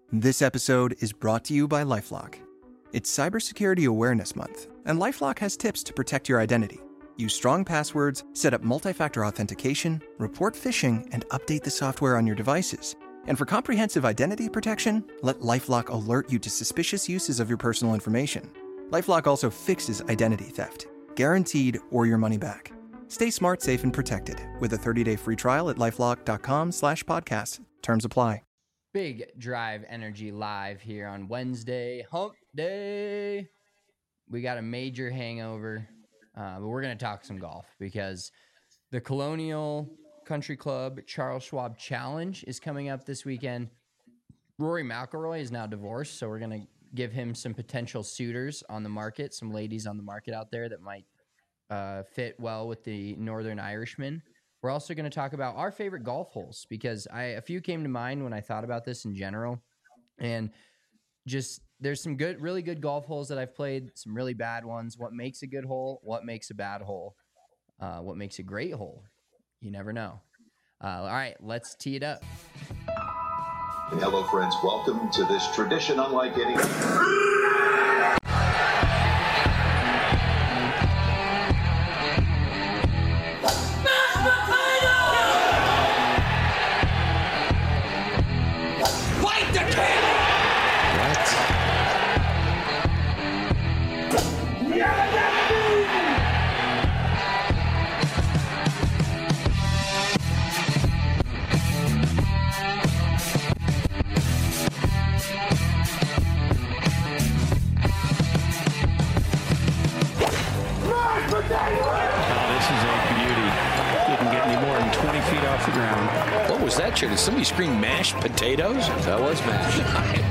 This episode is brought to you by LifeLock. It's Cybersecurity Awareness Month, and LifeLock has tips to protect your identity. Use strong passwords, set up multi-factor authentication, report phishing, and update the software on your devices. And for comprehensive identity protection, let LifeLock alert you to suspicious uses of your personal information. LifeLock also fixes identity theft, guaranteed or your money back. Stay smart, safe, and protected with a 30-day free trial at LifeLock.com/podcast. Terms apply. Big Drive Energy live here on Wednesday, Hump Day. We got a major hangover, but we're going to talk some golf because the Colonial Country Club Charles Schwab Challenge is coming up this weekend. Rory McIlroy is now divorced, so we're going to give him some potential suitors on the market, some ladies on the market out there that might fit well with the Northern Irishman. We're also going to talk about our favorite golf holes because a few came to mind when I thought about this in general. And just there's some really good golf holes that I've played, some really bad ones. What makes a good hole? What makes a bad hole? What makes a great hole? You never know. All right, let's tee it up. Hello, friends. Welcome to this tradition unlike any. What was that, Chair? Did somebody scream mashed potatoes? That was mashed.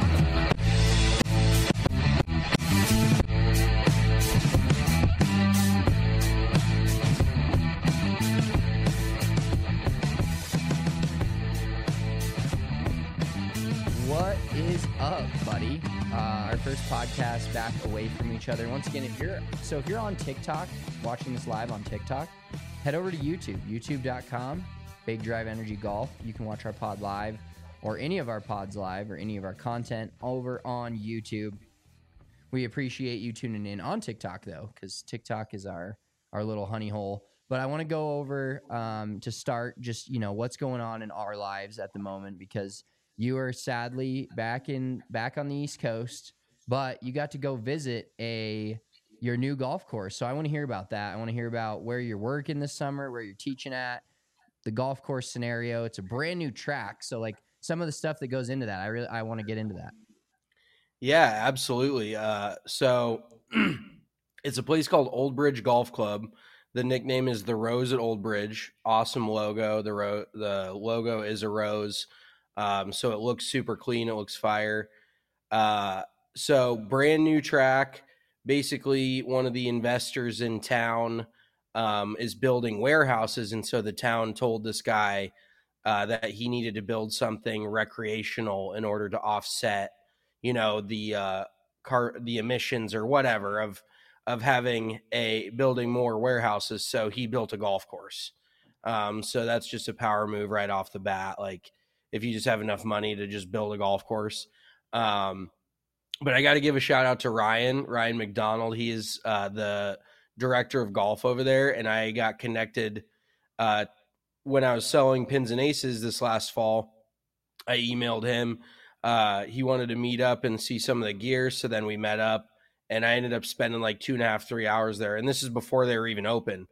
What is up, buddy? Our first podcast back away from each other. Once again, if you're on TikTok, watching this live on TikTok, head over to YouTube, youtube.com. Big Drive Energy Golf. You can watch our pod live or any of our pods live or any of our content over on YouTube. We appreciate you tuning in on TikTok, though, because TikTok is our little honey hole. But I want to go over to start just, what's going on in our lives at the moment, because you are sadly back on the East Coast, but you got to go visit your new golf course. So I want to hear about that. I want to hear about where you're working this summer, where you're teaching at, the golf course scenario. It's a brand new track, so like some of the stuff that goes into that, I want to get into that. Yeah, absolutely. So it's a place called Old Bridge Golf Club. The nickname is the Rose at Old Bridge. Awesome logo. The logo is a rose, so it looks super clean. It looks fire. So brand new track. Basically, one of the investors in town is building warehouses, and so the town told this guy that he needed to build something recreational in order to offset, the emissions or whatever of having building more warehouses. So he built a golf course. So that's just a power move right off the bat. Like if you just have enough money to just build a golf course. But I got to give a shout out to Ryan McDonald. He is the director of golf over there, and I got connected when I was selling pins and aces this last fall. I emailed him. He wanted to meet up and see some of the gear, so then we met up, and I ended up spending like 2.5, 3 hours there, and this is before they were even open.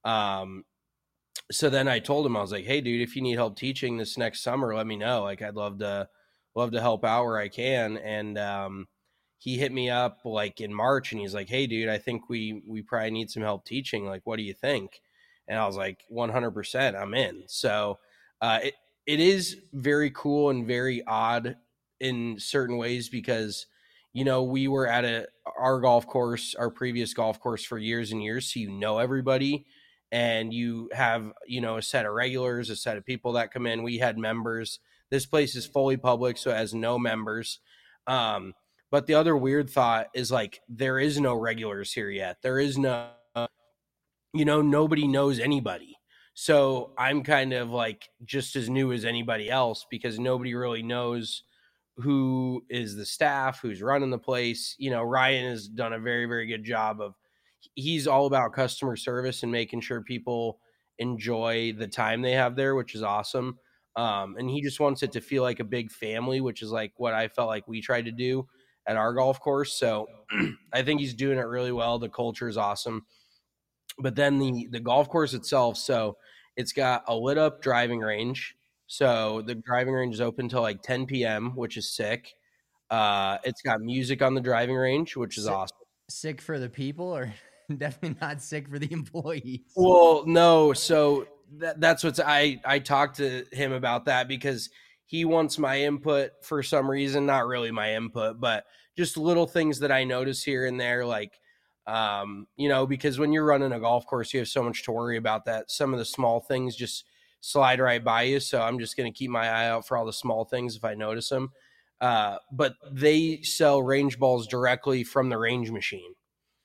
So then I told him, I was like, hey, dude, if you need help teaching this next summer, let me know. Like, I'd love to help out where I can. And he hit me up like in March, and he's like, hey, dude, I think we probably need some help teaching. Like, what do you think? And I was like, 100%, I'm in. So it is very cool and very odd in certain ways because, we were at our golf course, our previous golf course for years and years. So everybody, and you have, a set of regulars, a set of people that come in. We had members. This place is fully public, so it has no members. But the other weird thought is like, there is no regulars here yet. There is no, nobody knows anybody. So I'm kind of like just as new as anybody else because nobody really knows who is the staff, who's running the place. You know, Ryan has done a very, very good job of, he's all about customer service and making sure people enjoy the time they have there, which is awesome. And he just wants it to feel like a big family, which is like what I felt like we tried to do at our golf course. So I think he's doing it really well. The culture is awesome. But then the golf course itself, so it's got a lit up driving range. So the driving range is open till like 10 p.m., which is sick. It's got music on the driving range, which is awesome. Sick for the people, or definitely not sick for the employees? Well, no. So that's what's I talked to him about that because he wants my input for some reason, not really my input, but just little things that I notice here and there, like, you know, because when you're running a golf course, you have so much to worry about that some of the small things just slide right by you. So I'm just going to keep my eye out for all the small things if I notice them. But they sell range balls directly from the range machine.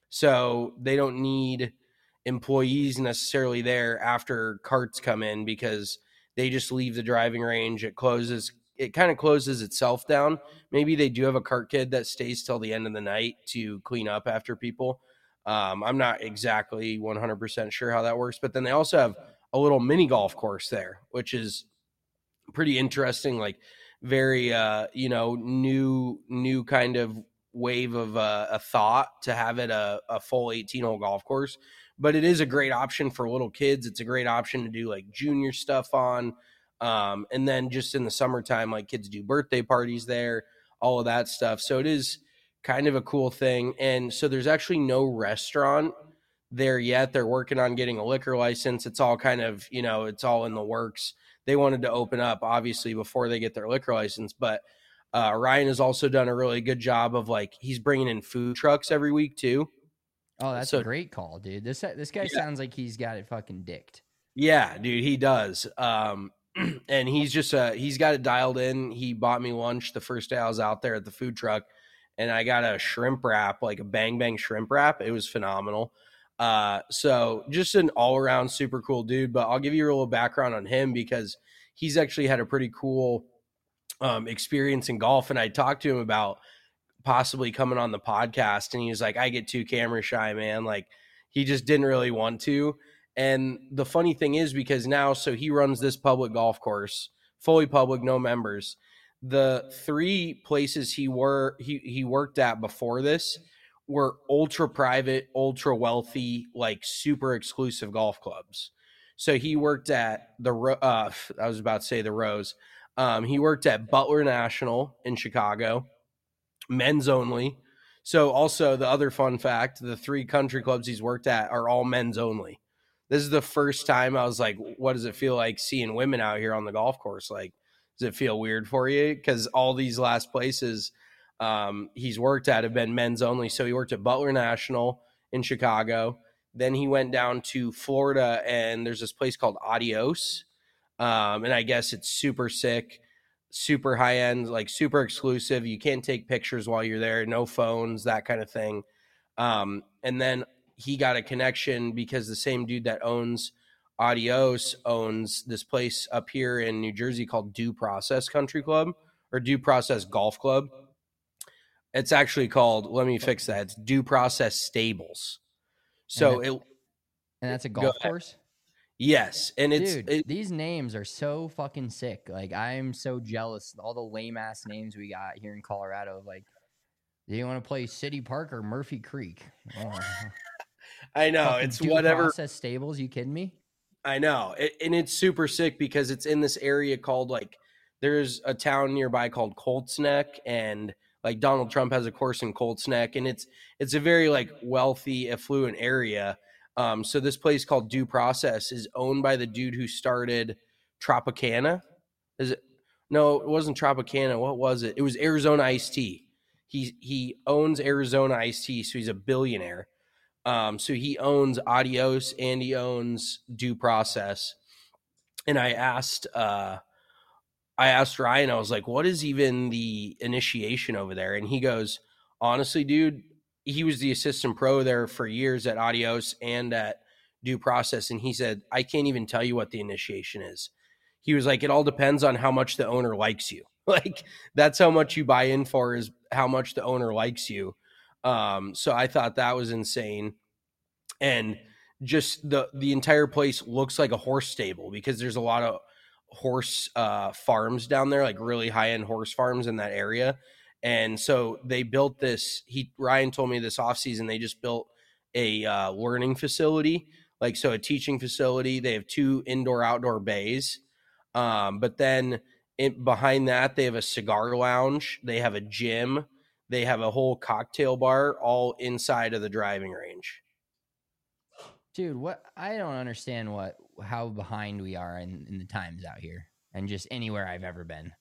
So they don't need employees necessarily there after carts come in because they just leave the driving range. It kind of closes itself down. Maybe they do have a cart kid that stays till the end of the night to clean up after people. I'm not exactly 100% sure how that works, but then they also have a little mini golf course there, which is pretty interesting, like very, you know, new kind of wave of a thought to have it a full 18-hole golf course. But it is a great option for little kids. It's a great option to do like junior stuff on. And then just in the summertime, like kids do birthday parties there, all of that stuff. So it is kind of a cool thing. And so there's actually no restaurant there yet. They're working on getting a liquor license. It's all kind of, you know, it's all in the works. They wanted to open up obviously before they get their liquor license, but Ryan has also done a really good job of like, he's bringing in food trucks every week too. Oh, that's a great call, dude. This guy sounds like he's got it fucking dicked. Yeah, dude, he does. And he's just he's got it dialed in. He bought me lunch the first day I was out there at the food truck, and I got a shrimp wrap, like a Bang Bang shrimp wrap. It was phenomenal. So just an all around super cool dude. But I'll give you a little background on him because he's actually had a pretty cool experience in golf, and I talked to him about possibly coming on the podcast, and he was like, I get too camera shy, man. Like he just didn't really want to. And the funny thing is, because now, so he runs this public golf course, fully public, no members. The three places he worked at before this were ultra private, ultra wealthy, like super exclusive golf clubs. So he worked at I was about to say the Rose. He worked at Butler National in Chicago, men's only. So also the other fun fact, the three country clubs he's worked at are all men's only. This is the first time I was like, what does it feel like seeing women out here on the golf course? Like, does it feel weird for you? Because all these last places he's worked at have been men's only. So he worked at Butler National in Chicago. Then he went down to Florida, and there's this place called Adios. And I guess it's super sick, super high end, like super exclusive. You can't take pictures while you're there, no phones, that kind of thing. And then he got a connection because the same dude that owns Adios owns this place up here in New Jersey called Due Process Country Club or Due Process Golf Club. It's actually called, let me fix that. It's Due Process Stables. So and that's a golf course? Yes. And these names are so fucking sick. Like, I'm so jealous of all the lame ass names we got here in Colorado. Like, do you want to play City Park or Murphy Creek? Oh. I know. Fucking It's Due whatever. Process Stables. You kidding me? I know. And it's super sick because it's in this area called, like, there's a town nearby called Colts Neck, and like Donald Trump has a course in Colts Neck, and it's a very like wealthy, affluent area. So this place called Due Process is owned by the dude who started Tropicana. Is it? No, it wasn't Tropicana. What was it? It was Arizona Iced Tea. He owns Arizona Iced Tea, so he's a billionaire. So he owns Adios and he owns Due Process. And I asked Ryan, I was like, what is even the initiation over there? And he goes, honestly, dude, he was the assistant pro there for years at Adios and at Due Process. And he said, I can't even tell you what the initiation is. He was like, it all depends on how much the owner likes you. Like that's how much you buy in for, is how much the owner likes you. So I thought that was insane. And just the entire place looks like a horse stable because there's a lot of horse farms down there, like really high end horse farms in that area. And so they built this. Ryan told me this offseason they just built a learning facility, like so a teaching facility. They have 2 indoor outdoor bays, but then behind that they have a cigar lounge. They have a gym. They have a whole cocktail bar all inside of the driving range. Dude, what I don't understand how behind we are in the times out here and just anywhere I've ever been.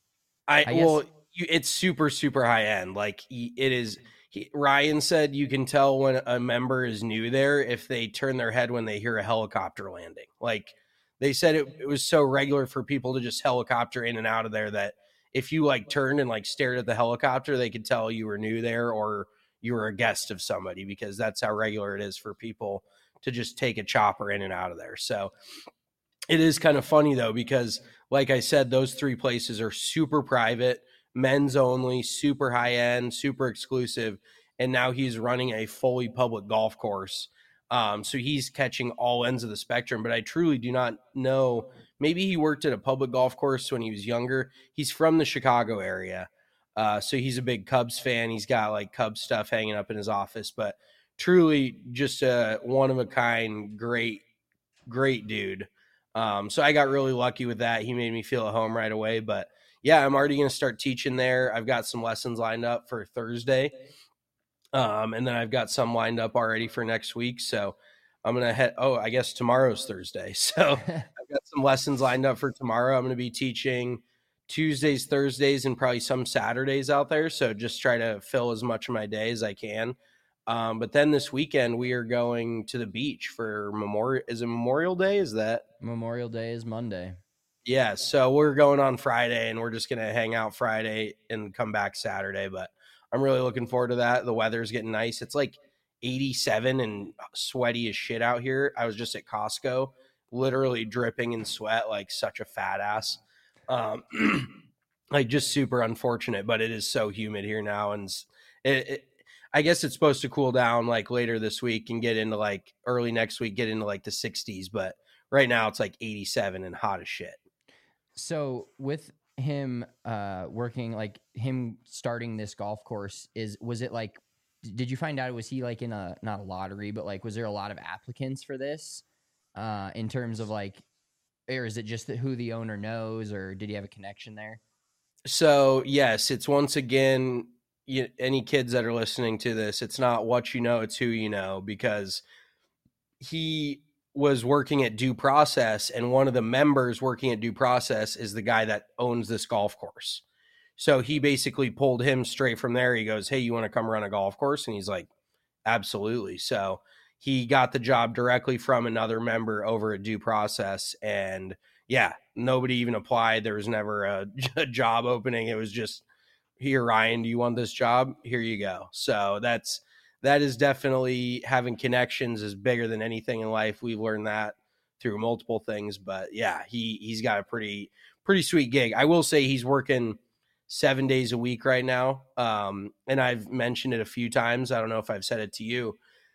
It's super, super high end. Like it is. Ryan said you can tell when a member is new there if they turn their head when they hear a helicopter landing. Like they said it was so regular for people to just helicopter in and out of there that if you like turned and like stared at the helicopter, they could tell you were new there or you were a guest of somebody, because that's how regular it is for people to just take a chopper in and out of there. So it is kind of funny though, because like I said, those 3 places are super private, men's only, super high end, super exclusive. And now he's running a fully public golf course. So he's catching all ends of the spectrum, but I truly do not know. Maybe he worked at a public golf course when he was younger. He's from the Chicago area. So he's a big Cubs fan. He's got like Cubs stuff hanging up in his office, but truly just a one of a kind, great dude. So I got really lucky with that. He made me feel at home right away, but yeah, I'm already going to start teaching there. I've got some lessons lined up for Thursday. And then I've got some lined up already for next week. So I'm going to I guess tomorrow's Thursday. So I've got some lessons lined up for tomorrow. I'm going to be teaching Tuesdays, Thursdays, and probably some Saturdays out there. So just try to fill as much of my day as I can. But then this weekend we are going to the beach for Memorial Day? Is that Memorial Day is Monday? Yeah. So we're going on Friday and we're just going to hang out Friday and come back Saturday. But I'm really looking forward to that. The weather's getting nice. It's like 87 and sweaty as shit out here. I was just at Costco, literally dripping in sweat like such a fat ass. Like just super unfortunate, but it is so humid here now. And I guess it's supposed to cool down like later this week and get into like early next week, get into like the 60s. But right now it's like 87 and hot as shit. So with him working, like him starting this golf course, was it like, did you find out, was he like in not a lottery, but like, was there a lot of applicants for this in terms of like, or is it just who the owner knows, or did he have a connection there? So yes, it's once again, any kids that are listening to this, it's not what you know, it's who you know, because he was working at Due Process, and one of the members working at Due Process is the guy that owns this golf course. So he basically pulled him straight from there. He goes, "Hey, you want to come run a golf course?" And he's like, "Absolutely." So he got the job directly from another member over at Due Process. And yeah, nobody even applied. There was never a job opening. It was just, "Here, Ryan, do you want this job? Here you go." So that is definitely, having connections is bigger than anything in life. We've learned that through multiple things, but yeah, he's got a pretty sweet gig. I will say he's working 7 days a week right now. And I've mentioned it a few times. I don't know if I've said it to you.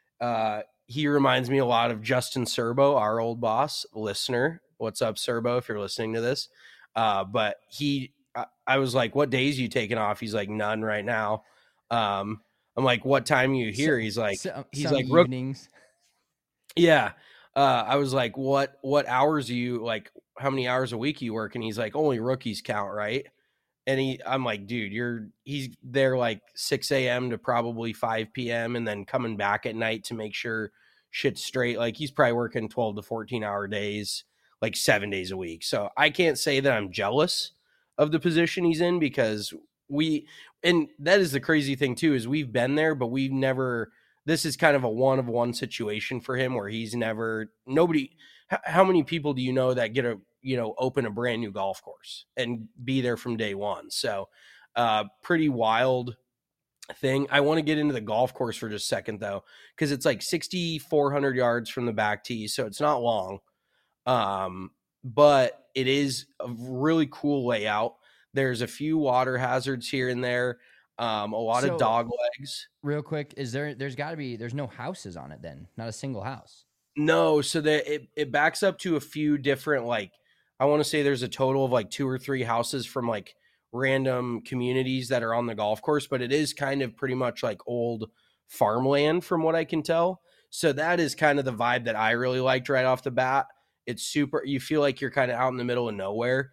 He reminds me a lot of Justin Serbo, our old boss, listener. What's up, Serbo, if you're listening to this? But I was like, "What days are you taking off?" He's like, "None right now." I'm like, "What time are you here?" He's like, evenings. Yeah. I was like, what hours are you, like, how many hours a week you work? And he's like, "Only rookies count, right?" And I'm like, "Dude, he's there like 6 a.m. to probably 5 p.m. and then coming back at night to make sure shit's straight." Like he's probably working 12 to 14 hour days, like 7 days a week. So I can't say that I'm jealous of the position he's in, because and that is the crazy thing too, is we've been there, but we've never, this is kind of a one-of-one situation for him where he's never, how many people do you know that get open a brand new golf course and be there from day one? So pretty wild thing. I want to get into the golf course for just a second though, because it's like 6,400 yards from the back tee. So it's not long. But it is a really cool layout. There's a few water hazards here and there. A lot of dog legs. Real quick, there's no houses on it then? Not a single house? No, so that it backs up to a few different, like, I want to say there's a total of like 2 or 3 houses from like random communities that are on the golf course, but it is kind of pretty much like old farmland from what I can tell. So that is kind of the vibe that I really liked right off the bat. It's super, you feel like you're kind of out in the middle of nowhere.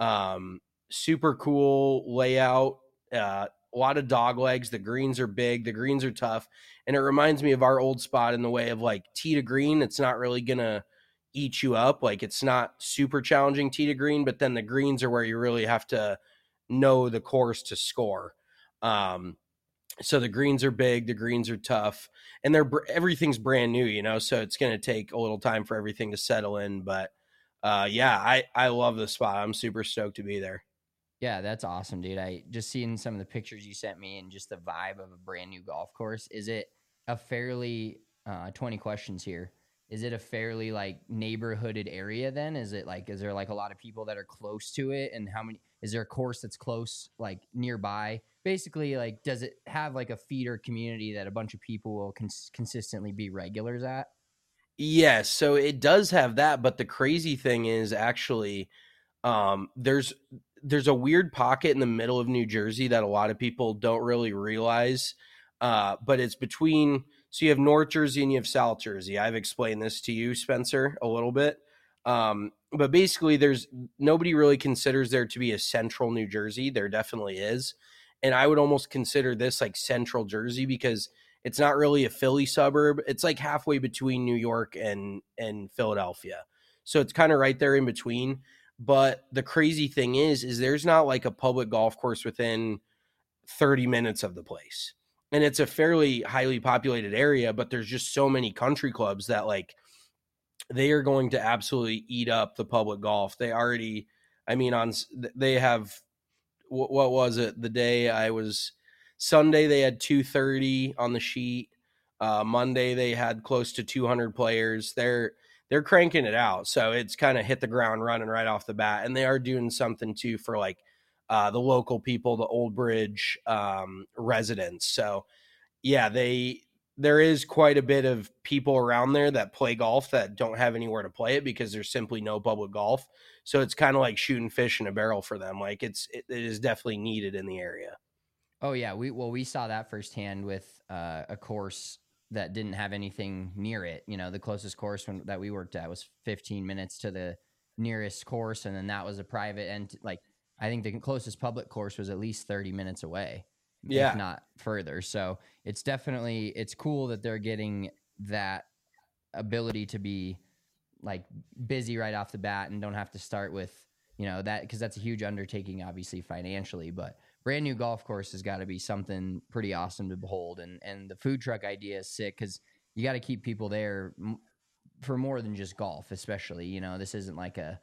Super cool layout. A lot of dog legs. The greens are big. The greens are tough. And it reminds me of our old spot in the way of like tee to green. It's not really going to eat you up. Like it's not super challenging tee to green, but then the greens are where you really have to know the course to score. So the greens are big, the greens are tough, and everything's brand new, you know, so it's going to take a little time for everything to settle in. But yeah, I love the spot. I'm super stoked to be there. Yeah, that's awesome, dude. I just seen some of the pictures you sent me and just the vibe of a brand new golf course. Is it a fairly 20 questions here? Is it a fairly like neighborhooded area then? Is there like a lot of people that are close to it? And is there a course that's close, like nearby? Basically, like, does it have like a feeder community that a bunch of people will consistently be regulars at? Yes, so it does have that, but the crazy thing is actually there's a weird pocket in the middle of New Jersey that a lot of people don't really realize, but it's between, so you have North Jersey and you have South Jersey. I've explained this to you, Spencer, a little bit, but basically nobody really considers there to be a central New Jersey. There definitely is. And I would almost consider this like central Jersey because it's not really a Philly suburb. It's like halfway between New York and Philadelphia. So it's kind of right there in between. But the crazy thing is there's not like a public golf course within 30 minutes of the place. And it's a fairly highly populated area, but there's just so many country clubs that like they are going to absolutely eat up the public golf. They already, I mean, they have, what was it? The day Sunday, they had 230 on the sheet. Monday, they had close to 200 players. They're cranking it out. So it's kind of hit the ground running right off the bat. And they are doing something too for like the local people, the Old Bridge residents. So yeah, there is quite a bit of people around there that play golf that don't have anywhere to play it because there's simply no public golf. So it's kind of like shooting fish in a barrel for them. Like it is definitely needed in the area. Oh yeah. We saw that firsthand with a course that didn't have anything near it. You know, the closest course that we worked at was 15 minutes to the nearest course. And then that was a private, and like, I think the closest public course was at least 30 minutes away. Yeah. If not further. So it's cool that they're getting that ability to be like busy right off the bat and don't have to start with, you know, that, because that's a huge undertaking, obviously financially, but brand new golf course has got to be something pretty awesome to behold. And the food truck idea is sick because you got to keep people there for more than just golf, especially, you know, this isn't like an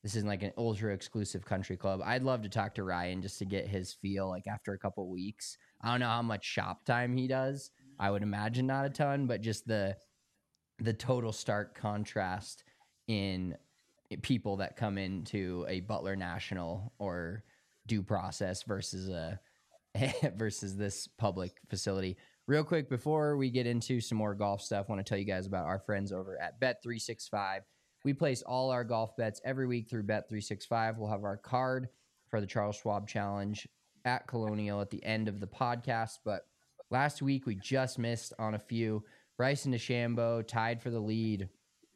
ultra exclusive country club. I'd love to talk to Ryan just to get his feel like after a couple weeks. I don't know how much shop time he does. I would imagine not a ton, but just the total stark contrast in people that come into a Butler National or Due Process versus this public facility. Real quick, before we get into some more golf stuff, I want to tell you guys about our friends over at Bet365. We place all our golf bets every week through Bet365. We'll have our card for the Charles Schwab Challenge at Colonial at the end of the podcast. But last week, we just missed on a few. Bryson DeChambeau tied for the lead.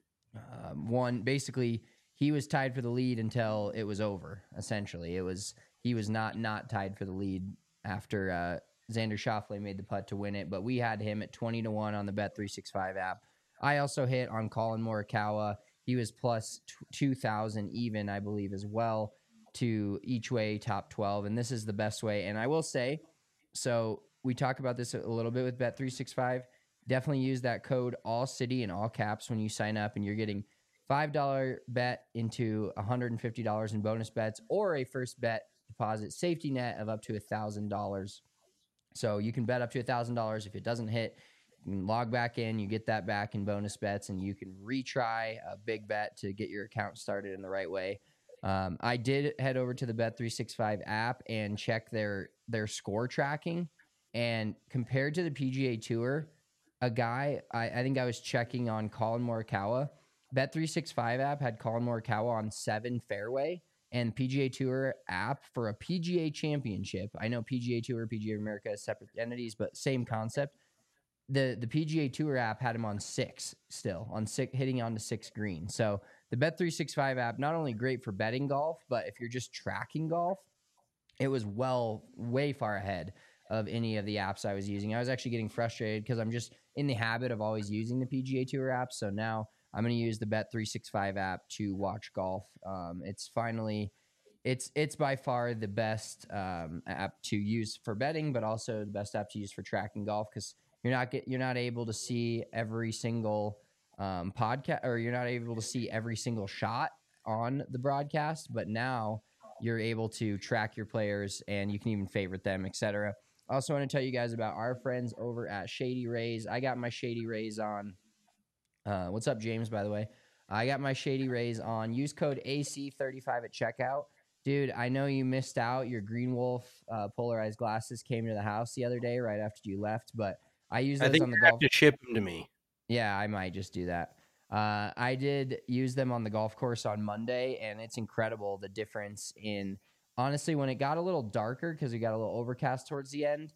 Basically, he was tied for the lead until it was over, essentially. He was not tied for the lead after Xander Schauffele made the putt to win it. But we had him at 20-1 on the Bet365 app. I also hit on Colin Morikawa. He was plus 2,000 even, I believe, as well, to each way top 12. And this is the best way. And I will say, so we talk about this a little bit with Bet365. Definitely use that code ALLCITY in all caps when you sign up, and you're getting $5 bet into $150 in bonus bets or a first bet deposit safety net of up to $1,000. So you can bet up to $1,000. If it doesn't hit, you can log back in, you get that back in bonus bets, and you can retry a big bet to get your account started in the right way. I did head over to the Bet365 app and check their score tracking. And compared to the PGA Tour, a guy, I think I was checking on Colin Morikawa. Bet365 app had Colin Morikawa on 7 fairway, and PGA Tour app for a PGA championship. I know PGA Tour, PGA America is separate entities, but same concept. The PGA Tour app had him on 6 still, on 6, hitting onto 6 green. So the Bet365 app, not only great for betting golf, but if you're just tracking golf, it was way far ahead of any of the apps I was using. I was actually getting frustrated because I'm just in the habit of always using the PGA Tour app. So now I'm going to use the Bet365 app to watch golf. It's by far the best app to use for betting, but also the best app to use for tracking golf, because you're not able to see every single podcast, or you're not able to see every single shot on the broadcast, but now you're able to track your players and you can even favorite them, etc. I also want to tell you guys about our friends over at Shady Rays. I got my Shady Rays on. What's up, James, by the way? I got my Shady Rays on. Use code AC35 at checkout. Dude, I know you missed out. Your Green Wolf polarized glasses came to the house the other day right after you left, but I use those on the golf. I think you have to ship them to me. Yeah, I might just do that. I did use them on the golf course on Monday, and it's incredible the difference in, honestly, when it got a little darker because we got a little overcast towards the end,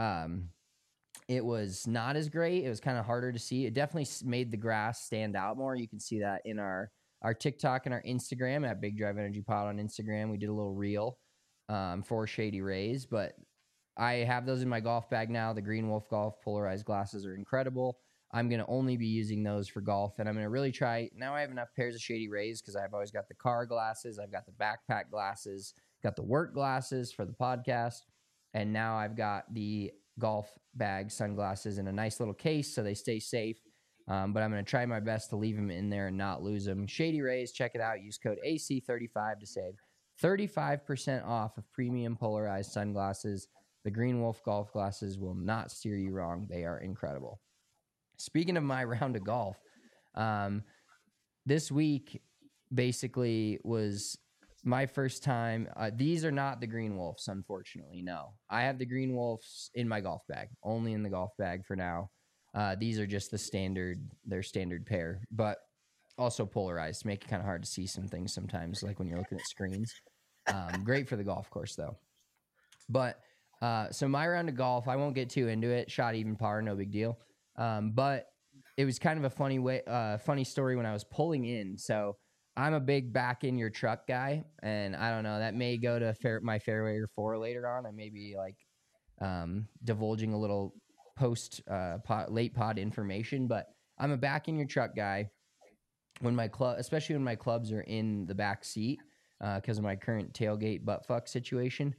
it was not as great. It was kind of harder to see. It definitely made the grass stand out more. You can see that in our TikTok and our Instagram at Big Drive Energy Pod on Instagram. We did a little reel for Shady Rays, but I have those in my golf bag now. The Green Wolf Golf polarized glasses are incredible. I'm going to only be using those for golf, and I'm going to really try. Now I have enough pairs of Shady Rays because I've always got the car glasses, I've got the backpack glasses, got the work glasses for the podcast, and now I've got the golf bag sunglasses in a nice little case so they stay safe. But I'm going to try my best to leave them in there and not lose them. Shady Rays, check it out. Use code AC35 to save 35% off of premium polarized sunglasses. The Green Wolf golf glasses will not steer you wrong. They are incredible. Speaking of my round of golf, this week basically was my first time. These are not the Green Wolves, unfortunately. No, I have the Green Wolves in my golf bag, only in the golf bag for now. These are just their standard pair, but also polarized, make it kind of hard to see some things sometimes, like when you're looking at screens. Great for the golf course though. But so my round of golf, I won't get too into it. Shot even par, no big deal. But it was kind of a funny story when I was pulling in. So I'm a big back in your truck guy, and I don't know, that may go to my fairway or 4 later on. I may be like divulging a little late pod information, but I'm a back in your truck guy when especially when my clubs are in the back seat because of my current tailgate buttfuck situation.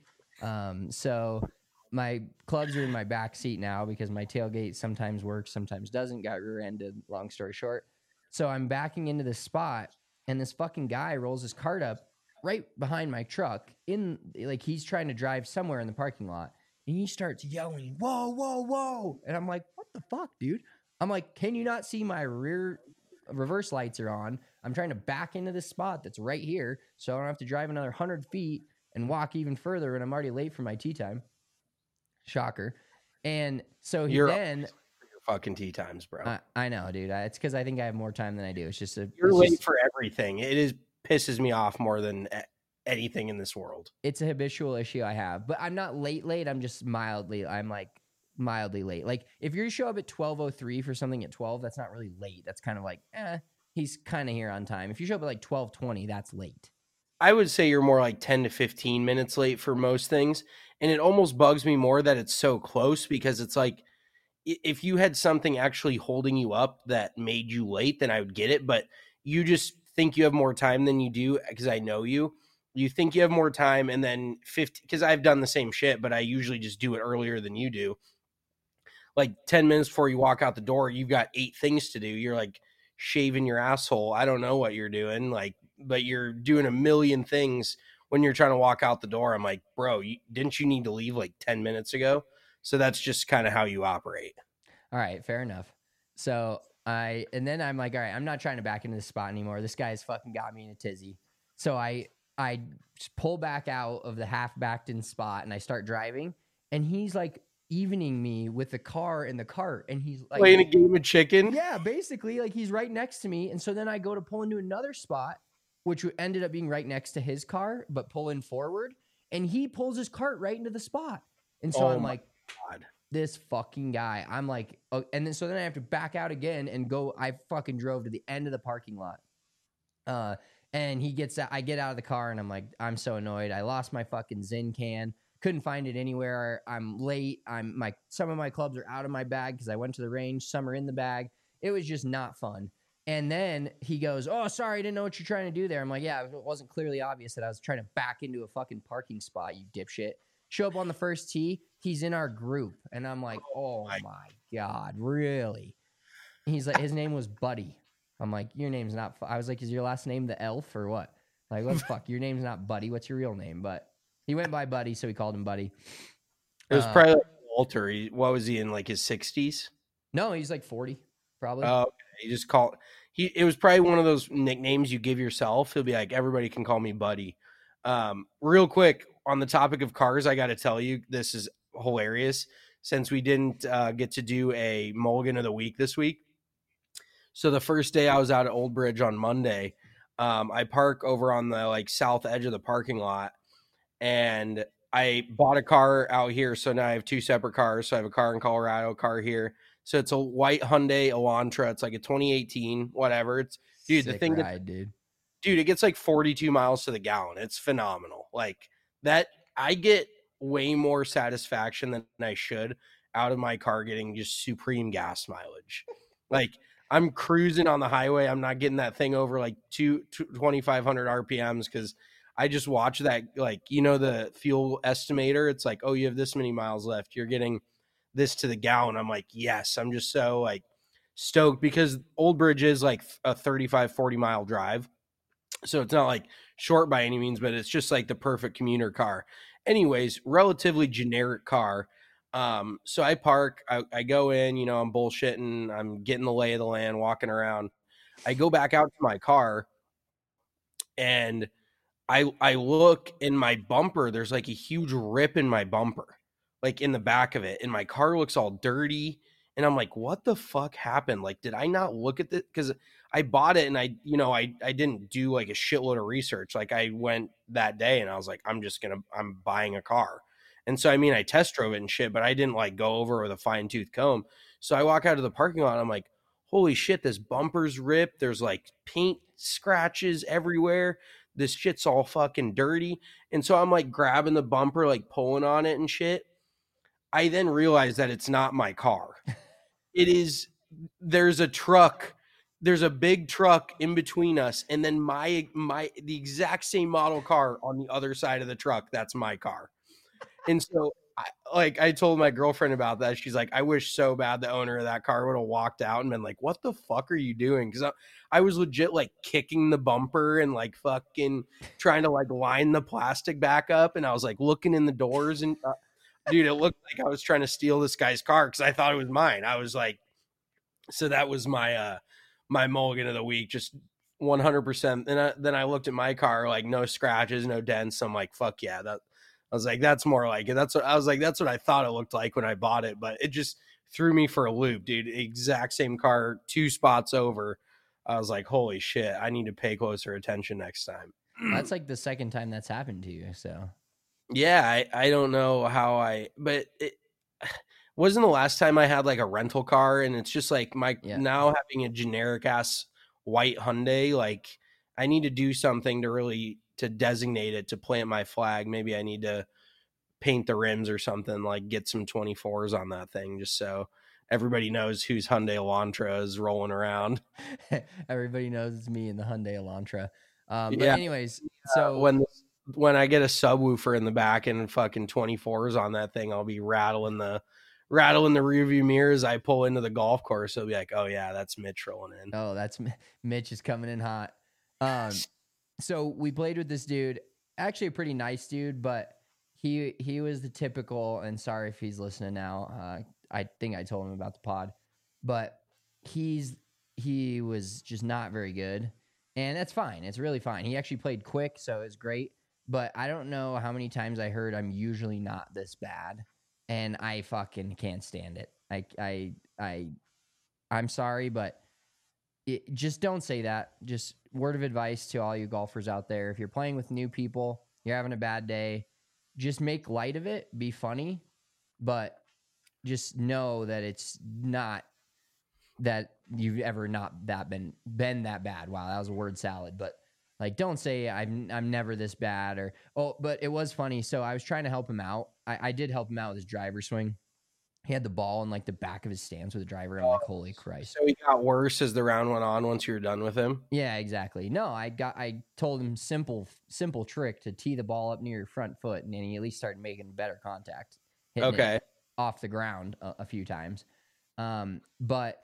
So my clubs are in my back seat now because my tailgate sometimes works, sometimes doesn't. Got rear-ended, long story short. So I'm backing into this spot, and this fucking guy rolls his cart up right behind my truck like he's trying to drive somewhere in the parking lot. And he starts yelling, "Whoa, whoa, whoa." And I'm like, what the fuck, dude? I'm like, can you not see my reverse lights are on? I'm trying to back into this spot that's right here so I don't have to drive another 100 feet and walk even further, and I'm already late for my tee time. Shocker. And so You're then... your fucking tee times, bro. I know, dude. It's because I think I have more time than I do. It's just you're late for everything. It pisses me off more than anything in this world. It's a habitual issue I have, but I'm not late. I'm just mildly late. Like if you show up at 12:03 for something at 12, that's not really late. That's kind of like, he's kind of here on time. If you show up at like 12:20, that's late. I would say you're more like 10 to 15 minutes late for most things. And it almost bugs me more that it's so close, because it's like, if you had something actually holding you up that made you late, then I would get it. But you just think you have more time than you do, because I know you. You think you have more time, and then 50, because I've done the same shit, but I usually just do it earlier than you do. Like 10 minutes before you walk out the door, you've got 8 things to do. You're like shaving your asshole. I don't know what you're doing, but you're doing a million things when you're trying to walk out the door. I'm like, bro, didn't you need to leave like 10 minutes ago? So that's just kind of how you operate. All right, fair enough. So and then I'm like, all right, I'm not trying to back into this spot anymore. This guy's fucking got me in a tizzy. So I I pull back out of the half backed in spot and I start driving, and he's like evening me with the car in the cart, and he's like playing a game of chicken. Yeah, basically, like he's right next to me. And so then I go to pull into another spot, which ended up being right next to his car, but pulling forward. And he pulls his cart right into the spot. And so Oh I'm my like, God. this fucking guy. I'm like, oh, and then so then I have to back out again and go. I fucking drove to the end of the parking lot. And he gets out, I get out of the car and I'm like, I'm so annoyed. I lost my fucking Zyn can. Couldn't find it anywhere. I'm late. Some of my clubs are out of my bag because I went to the range. Some are in the bag. It was just not fun. And then he goes, "Oh, sorry, I didn't know what you're trying to do there." I'm like, "Yeah, it wasn't clearly obvious that I was trying to back into a fucking parking spot, you dipshit." Show up on the first tee. He's in our group, and I'm like, "Oh my God, really?" He's like, his name was Buddy. I'm like, "Your name's not." I was like, "Is your last name the Elf or what?" Like, what the fuck? Your name's not Buddy. What's your real name? But he went by Buddy, so we called him Buddy. It was probably like Walter. What was he in, like his 60s? No, he's like 40, probably. Oh, okay. He just called. It was probably one of those nicknames you give yourself. He'll be like, everybody can call me Buddy. Real quick, on the topic of cars, I got to tell you, this is hilarious. Since we didn't get to do a Mulligan of the Week this week. So the first day I was out at Old Bridge on Monday, I park over on the like south edge of the parking lot, and I bought a car out here. So now I have two separate cars. So I have a car in Colorado, a car here. So it's a white Hyundai Elantra. It's like a 2018, whatever. It's dude, Sick the thing ride, dude. It gets like 42 miles to the gallon. It's phenomenal. Like that, I get way more satisfaction than I should out of my car getting just supreme gas mileage. Like I'm cruising on the highway. I'm not getting that thing over like 2,500 RPMs because I just watch that, like, the fuel estimator. It's like, oh, you have this many miles left. You're getting this to the gallon. I'm like, yes, I'm just so like stoked because Old Bridge is like a 35, 40 mile drive. So it's not like short by any means, but it's just like the perfect commuter car. Anyways, relatively generic car. So I park, I go in, I'm bullshitting. I'm getting the lay of the land, walking around. I go back out to my car and I look in my bumper. There's like a huge rip in my bumper, like in the back of it. And my car looks all dirty. And I'm like, what the fuck happened? Like, did I not look at this? Because I bought it and I didn't do like a shitload of research. Like I went that day and I was like, I'm buying a car. And so, I test drove it and shit, but I didn't like go over with a fine tooth comb. So I walk out of the parking lot and I'm like, holy shit, this bumper's ripped. There's like paint scratches everywhere. This shit's all fucking dirty. And so I'm like grabbing the bumper, like pulling on it and shit. I then realized that it's not my car. There's a truck. There's a big truck in between us. And then the exact same model car on the other side of the truck. That's my car. And so I told my girlfriend about that. She's like, I wish so bad the owner of that car would have walked out and been like, what the fuck are you doing? Because I was legit like kicking the bumper and like fucking trying to like line the plastic back up. And I was like looking in the doors and dude, it looked like I was trying to steal this guy's car because I thought it was mine. I was like, so that was my my Mulligan of the Week, just 100%. And then I looked at my car, like no scratches, no dents. I'm like, fuck yeah, that. I was like, that's more like it. That's what I thought it looked like when I bought it, but it just threw me for a loop, dude. Exact same car, 2 spots over. I was like, holy shit, I need to pay closer attention next time. That's like the second time that's happened to you. So yeah, I don't know how but it wasn't the last time I had like a rental car, and it's just like now having a generic ass white Hyundai, like I need to do something to designate it, to plant my flag. Maybe I need to paint the rims or something, like get some 24s on that thing just so everybody knows whose Hyundai Elantra is rolling around. Everybody knows it's me in the Hyundai Elantra. But yeah. anyways, so when I get a subwoofer in the back and fucking 24s on that thing, I'll be rattling the rearview mirrors. I pull into the golf course. It'll be like, oh yeah, that's Mitch rolling in. Oh, that's Mitch is coming in hot. So we played with this dude, actually a pretty nice dude, but he was the typical, and sorry if he's listening now. I think I told him about the pod, but he was just not very good. And that's fine. It's really fine. He actually played quick, so it's great. But I don't know how many times I heard I'm usually not this bad, and I fucking can't stand it. I'm sorry, but just don't say that. Just word of advice to all you golfers out there. If you're playing with new people, you're having a bad day, just make light of it, be funny, but just know that it's not that you've ever not that been that bad. Wow, that was a word salad. But like, don't say I'm never this bad or but it was funny. So I was trying to help him out. I did help him out with his driver swing. He had the ball in like the back of his stance with the driver. I'm like, holy Christ. So he got worse as the round went on once you were done with him? Yeah, exactly. No, I told him simple trick to tee the ball up near your front foot, and then he at least started making better contact. Hitting it off the ground a few times. But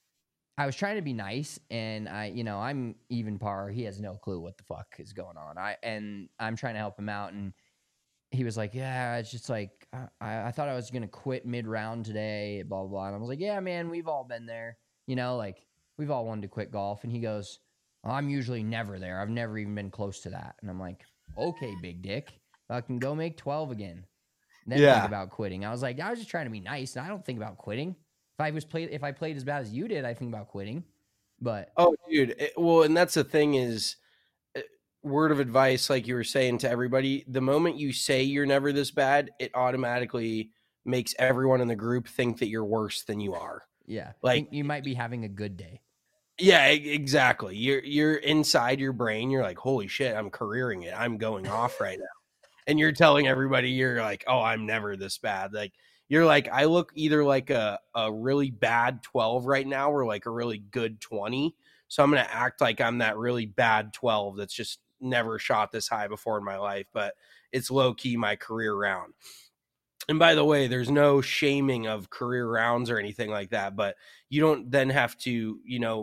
I was trying to be nice, and I'm even par. He has no clue what the fuck is going on. I'm trying to help him out, and he was like, yeah, it's just like, I thought I was going to quit mid-round today, blah, blah, blah. And I was like, yeah, man, we've all been there. Like, we've all wanted to quit golf. And he goes, I'm usually never there. I've never even been close to that. And I'm like, okay, big dick. I can go make 12 again. Then think about quitting. I was like, I was just trying to be nice, and I don't think about quitting. If I played as bad as you did, I think about quitting. But oh, dude, and that's the thing is, word of advice, like you were saying to everybody, the moment you say you're never this bad, it automatically makes everyone in the group think that you're worse than you are. Yeah, like you might be having a good day. Yeah, exactly. You're inside your brain. You're like, holy shit, I'm careering it. I'm going off right now. And you're telling everybody you're like, oh, I'm never this bad. Like, you're like, I look either like a really bad 12 right now or like a really good 20. So I'm going to act like I'm that really bad 12 that's just never shot this high before in my life, but it's low key my career round. And by the way, there's no shaming of career rounds or anything like that, but you don't then have to,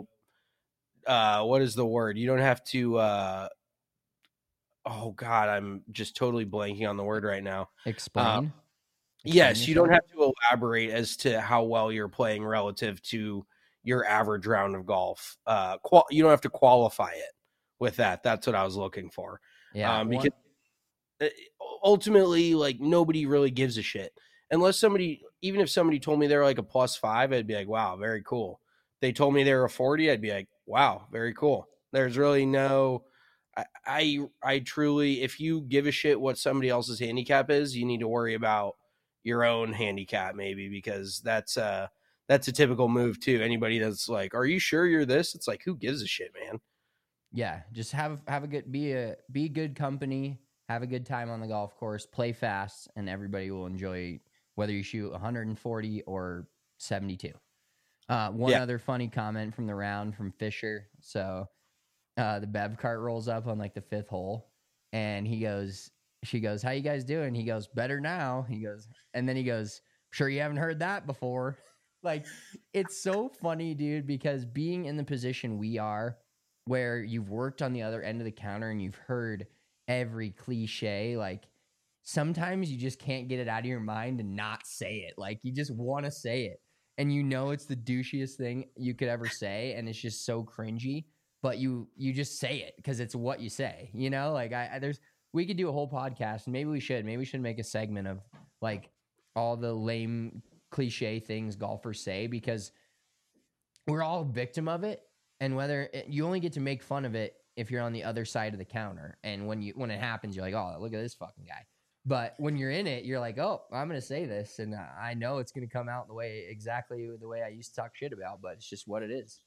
what is the word? You don't have to, oh God, I'm just totally blanking on the word right now. Explain yes, you don't have to elaborate as to how well you're playing relative to your average round of golf. You don't have to qualify it with that. That's what I was looking for. Yeah. Because ultimately, like, nobody really gives a shit. Unless even if somebody told me they're like a +5, I'd be like, wow, very cool. They told me they're a 40, I'd be like, wow, very cool. There's really no, I truly, if you give a shit what somebody else's handicap is, you need to worry about your own handicap maybe, because that's a typical move too. Anybody that's like, are you sure you're this? It's like, who gives a shit, man? Yeah, just have a good be good company, have a good time on the golf course, play fast, and everybody will enjoy whether you shoot 140 or 72. Other funny comment from the round from Fisher. So the Bev cart rolls up on like the 5th hole, and she goes, how you guys doing? He goes, better now. He goes, and then he goes, sure you haven't heard that before. Like, it's so funny, dude, because being in the position we are, where you've worked on the other end of the counter and you've heard every cliche, like, sometimes you just can't get it out of your mind and not say it. Like, you just want to say it. And it's the douchiest thing you could ever say, and it's just so cringy, but you just say it because it's what you say, Like, we could do a whole podcast, and maybe we should make a segment of, like, all the lame cliche things golfers say, because we're all a victim of it. And you only get to make fun of it if you're on the other side of the counter. And when it happens, you're like, oh, look at this fucking guy. But when you're in it, you're like, oh, I'm going to say this. And I know it's going to come out exactly the way I used to talk shit about, but it's just what it is.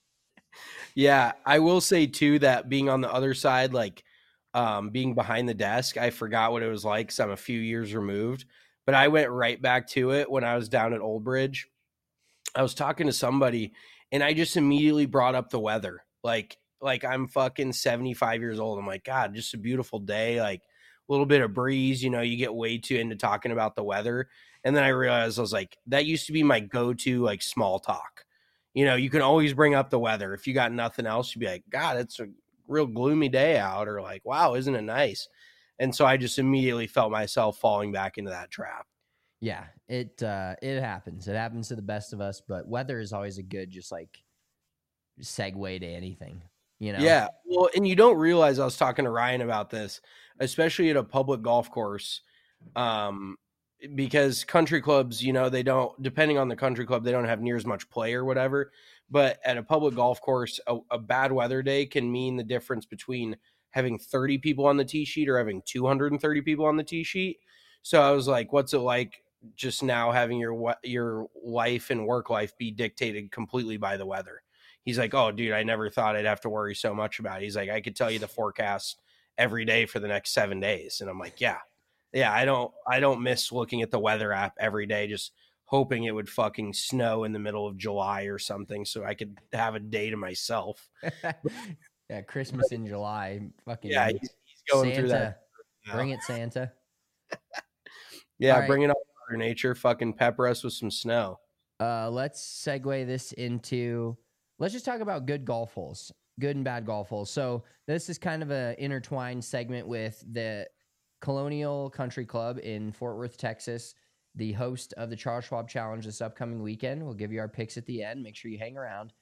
Yeah. I will say too, that being on the other side, like being behind the desk, I forgot what it was like, because I'm a few years removed, but I went right back to it when I was down at Old Bridge. I was talking to somebody, and I just immediately brought up the weather. Like I'm fucking 75 years old. I'm like, God, just a beautiful day. Like a little bit of breeze, you get way too into talking about the weather. And then I realized, I was like, that used to be my go-to, like, small talk. You can always bring up the weather. If you got nothing else, you'd be like, God, it's a real gloomy day out, or like, wow, isn't it nice? And so I just immediately felt myself falling back into that trap. Yeah, it happens. It happens to the best of us, but weather is always a good, just like, segue to anything. you know? Yeah. Well, and you don't realize, I was talking to Ryan about this, especially at a public golf course. Because country clubs, you know, they don't, depending on the country club, they don't have near as much play or whatever. But at a public golf course, a bad weather day can mean the difference between having 30 people on the tee sheet or having 230 people on the tee sheet. So I was like, what's it like just now having your life and work life be dictated completely by the weather? He's like, oh, dude, I never thought I'd have to worry so much about it. He's like, I could tell you the forecast every day for the next 7 days. And I'm like, yeah, I don't miss looking at the weather app every day, just hoping it would fucking snow in the middle of July or something so I could have a day to myself. Yeah, Christmas in July. Fucking Yeah, he's going Santa, through that. Bring it, Santa. Yeah, right. bring it on, Mother Nature. Fucking pepper us with some snow. Let's segue this into, let's just talk about good golf holes, good and bad golf holes. So this is kind of an intertwined segment with the Colonial Country Club in Fort Worth, Texas, the host of the Charles Schwab Challenge this upcoming weekend. We'll give you our picks at the end. Make sure you hang around.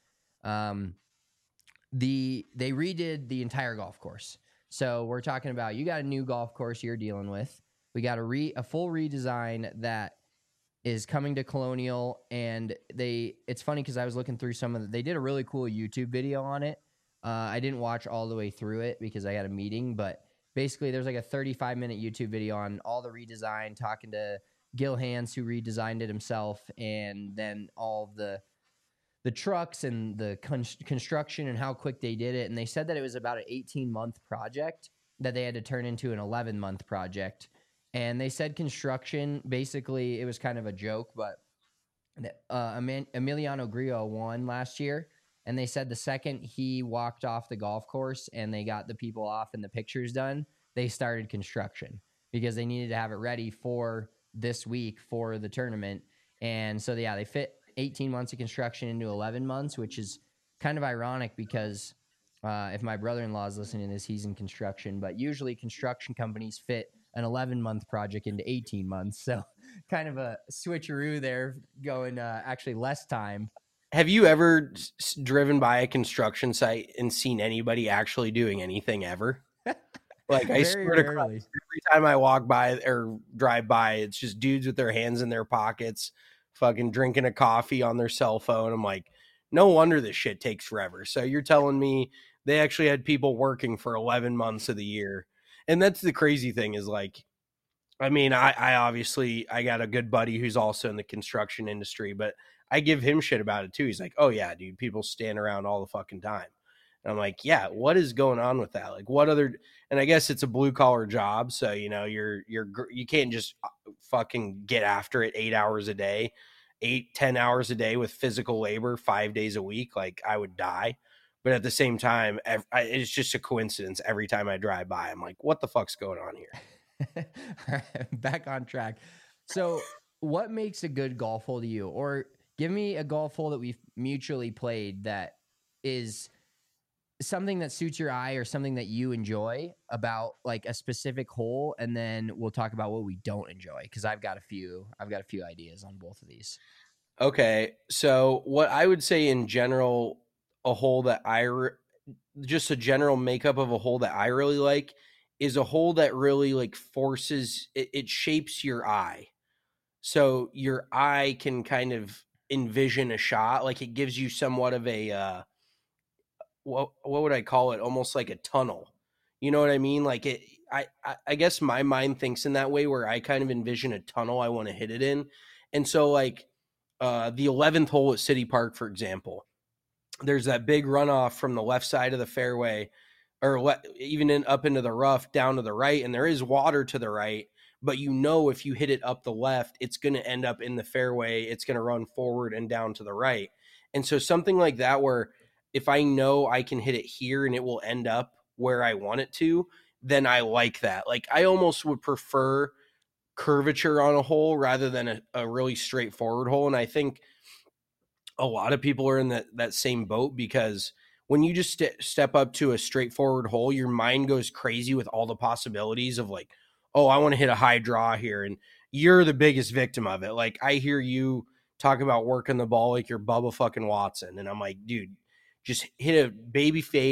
They redid the entire golf course. So we're talking about, you got a new golf course you're dealing with. We got a full redesign that is coming to Colonial, and it's funny because I was looking through they did a really cool YouTube video on it. I didn't watch all the way through it because I had a meeting, but basically there's like a 35-minute YouTube video on all the redesign, talking to Gil Hanse, who redesigned it himself, and then all of the trucks and the construction and how quick they did it. And they said that it was about an 18-month project that they had to turn into an 11-month project. And they said construction, basically, it was kind of a joke, but Emiliano Grillo won last year. And they said the second he walked off the golf course and they got the people off and the pictures done, they started construction because they needed to have it ready for this week for the tournament. And so, yeah, they fit 18 months of construction into 11 months, which is kind of ironic because if my brother-in-law is listening to this, he's in construction. But usually construction companies fit an 11-month project into 18 months. So kind of a switcheroo there, going actually less time. Have you ever driven by a construction site and seen anybody actually doing anything ever? Like, I swear to God, every time I walk by or drive by, it's just dudes with their hands in their pockets, fucking drinking a coffee on their cell phone. I'm like, no wonder this shit takes forever. So you're telling me they actually had people working for 11 months of the year. And that's the crazy thing is, like, I mean, I obviously, I got a good buddy who's also in the construction industry, but I give him shit about it too. He's like, oh yeah, dude, people stand around all the fucking time. And I'm like, yeah, what is going on with that? Like, what other, and I guess it's a blue collar job. So, you know, you can't just fucking get after it 8 hours a day, 8-10 hours a day with physical labor 5 days a week. Like, I would die. But at the same time, it's just a coincidence. Every time I drive by, I'm like, what the fuck's going on here? All right, back on track. So what makes a good golf hole to you? Or give me a golf hole that we've mutually played that is something that suits your eye or something that you enjoy about like a specific hole. And then we'll talk about what we don't enjoy. Cause I've got a few ideas on both of these. Okay. So what I would say in general, a hole that just a general makeup of a hole that I really like is a hole that really like forces, it shapes your eye. So your eye can kind of envision a shot. Like, it gives you somewhat of a, what would I call it? Almost like a tunnel. You know what I mean? Like, I guess my mind thinks in that way, where I kind of envision a tunnel I want to hit it in. And so, like, the 11th hole at City Park, for example, there's that big runoff from the left side of the fairway, or even up into the rough down to the right. And there is water to the right, but you know, if you hit it up the left, it's going to end up in the fairway. It's going to run forward and down to the right. And so something like that, where if I know I can hit it here and it will end up where I want it to, then I like that. Like, I almost would prefer curvature on a hole rather than a really straightforward hole. And I think a lot of people are in that same boat, because when you just step up to a straightforward hole, your mind goes crazy with all the possibilities of like, oh, I want to hit a high draw here. And you're the biggest victim of it. Like, I hear you talk about working the ball like you're Bubba fucking Watson. And I'm like, dude, just hit a baby fade,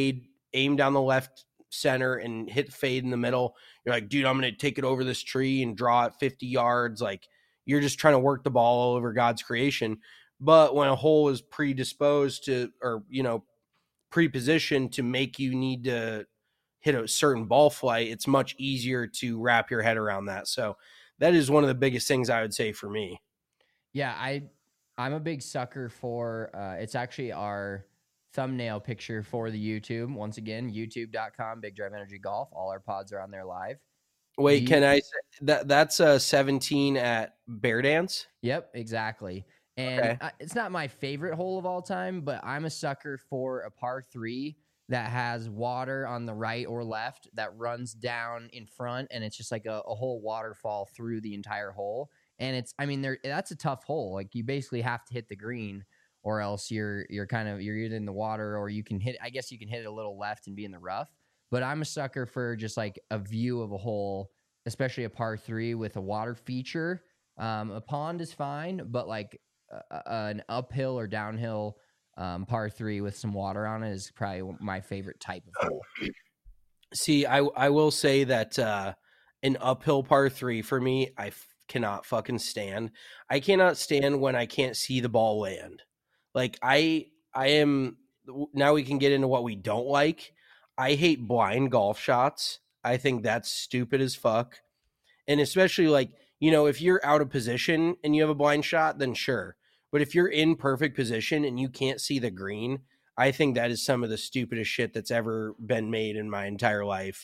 aim down the left center and hit fade in the middle. You're like, dude, I'm going to take it over this tree and draw it 50 yards. Like, you're just trying to work the ball all over God's creation. But when a hole is predisposed to, or, pre-positioned to make you need to hit a certain ball flight, it's much easier to wrap your head around that. So that is one of the biggest things I would say for me. Yeah, I'm a big sucker for it's actually our thumbnail picture for the YouTube. Once again, youtube.com, Big Drive Energy Golf. All our pods are on there live. Wait, can I say that's 17 at Bear Dance? Yep, exactly. And it's not my favorite hole of all time, but I'm a sucker for a par 3 that has water on the right or left that runs down in front, and it's just like a whole waterfall through the entire hole. And that's a tough hole. Like, you basically have to hit the green, or else you're either in the water, or you can hit it a little left and be in the rough. But I'm a sucker for just like a view of a hole, especially a par 3 with a water feature. A pond is fine, but like an uphill or downhill par 3 with some water on it is probably my favorite type of hole. See, I will say that an uphill par 3 for me, cannot fucking stand. I cannot stand when I can't see the ball land. Like, I am, now we can get into what we don't like. I hate blind golf shots. I think that's stupid as fuck. And especially, like, if you're out of position and you have a blind shot, then sure. But if you're in perfect position and you can't see the green, I think that is some of the stupidest shit that's ever been made in my entire life.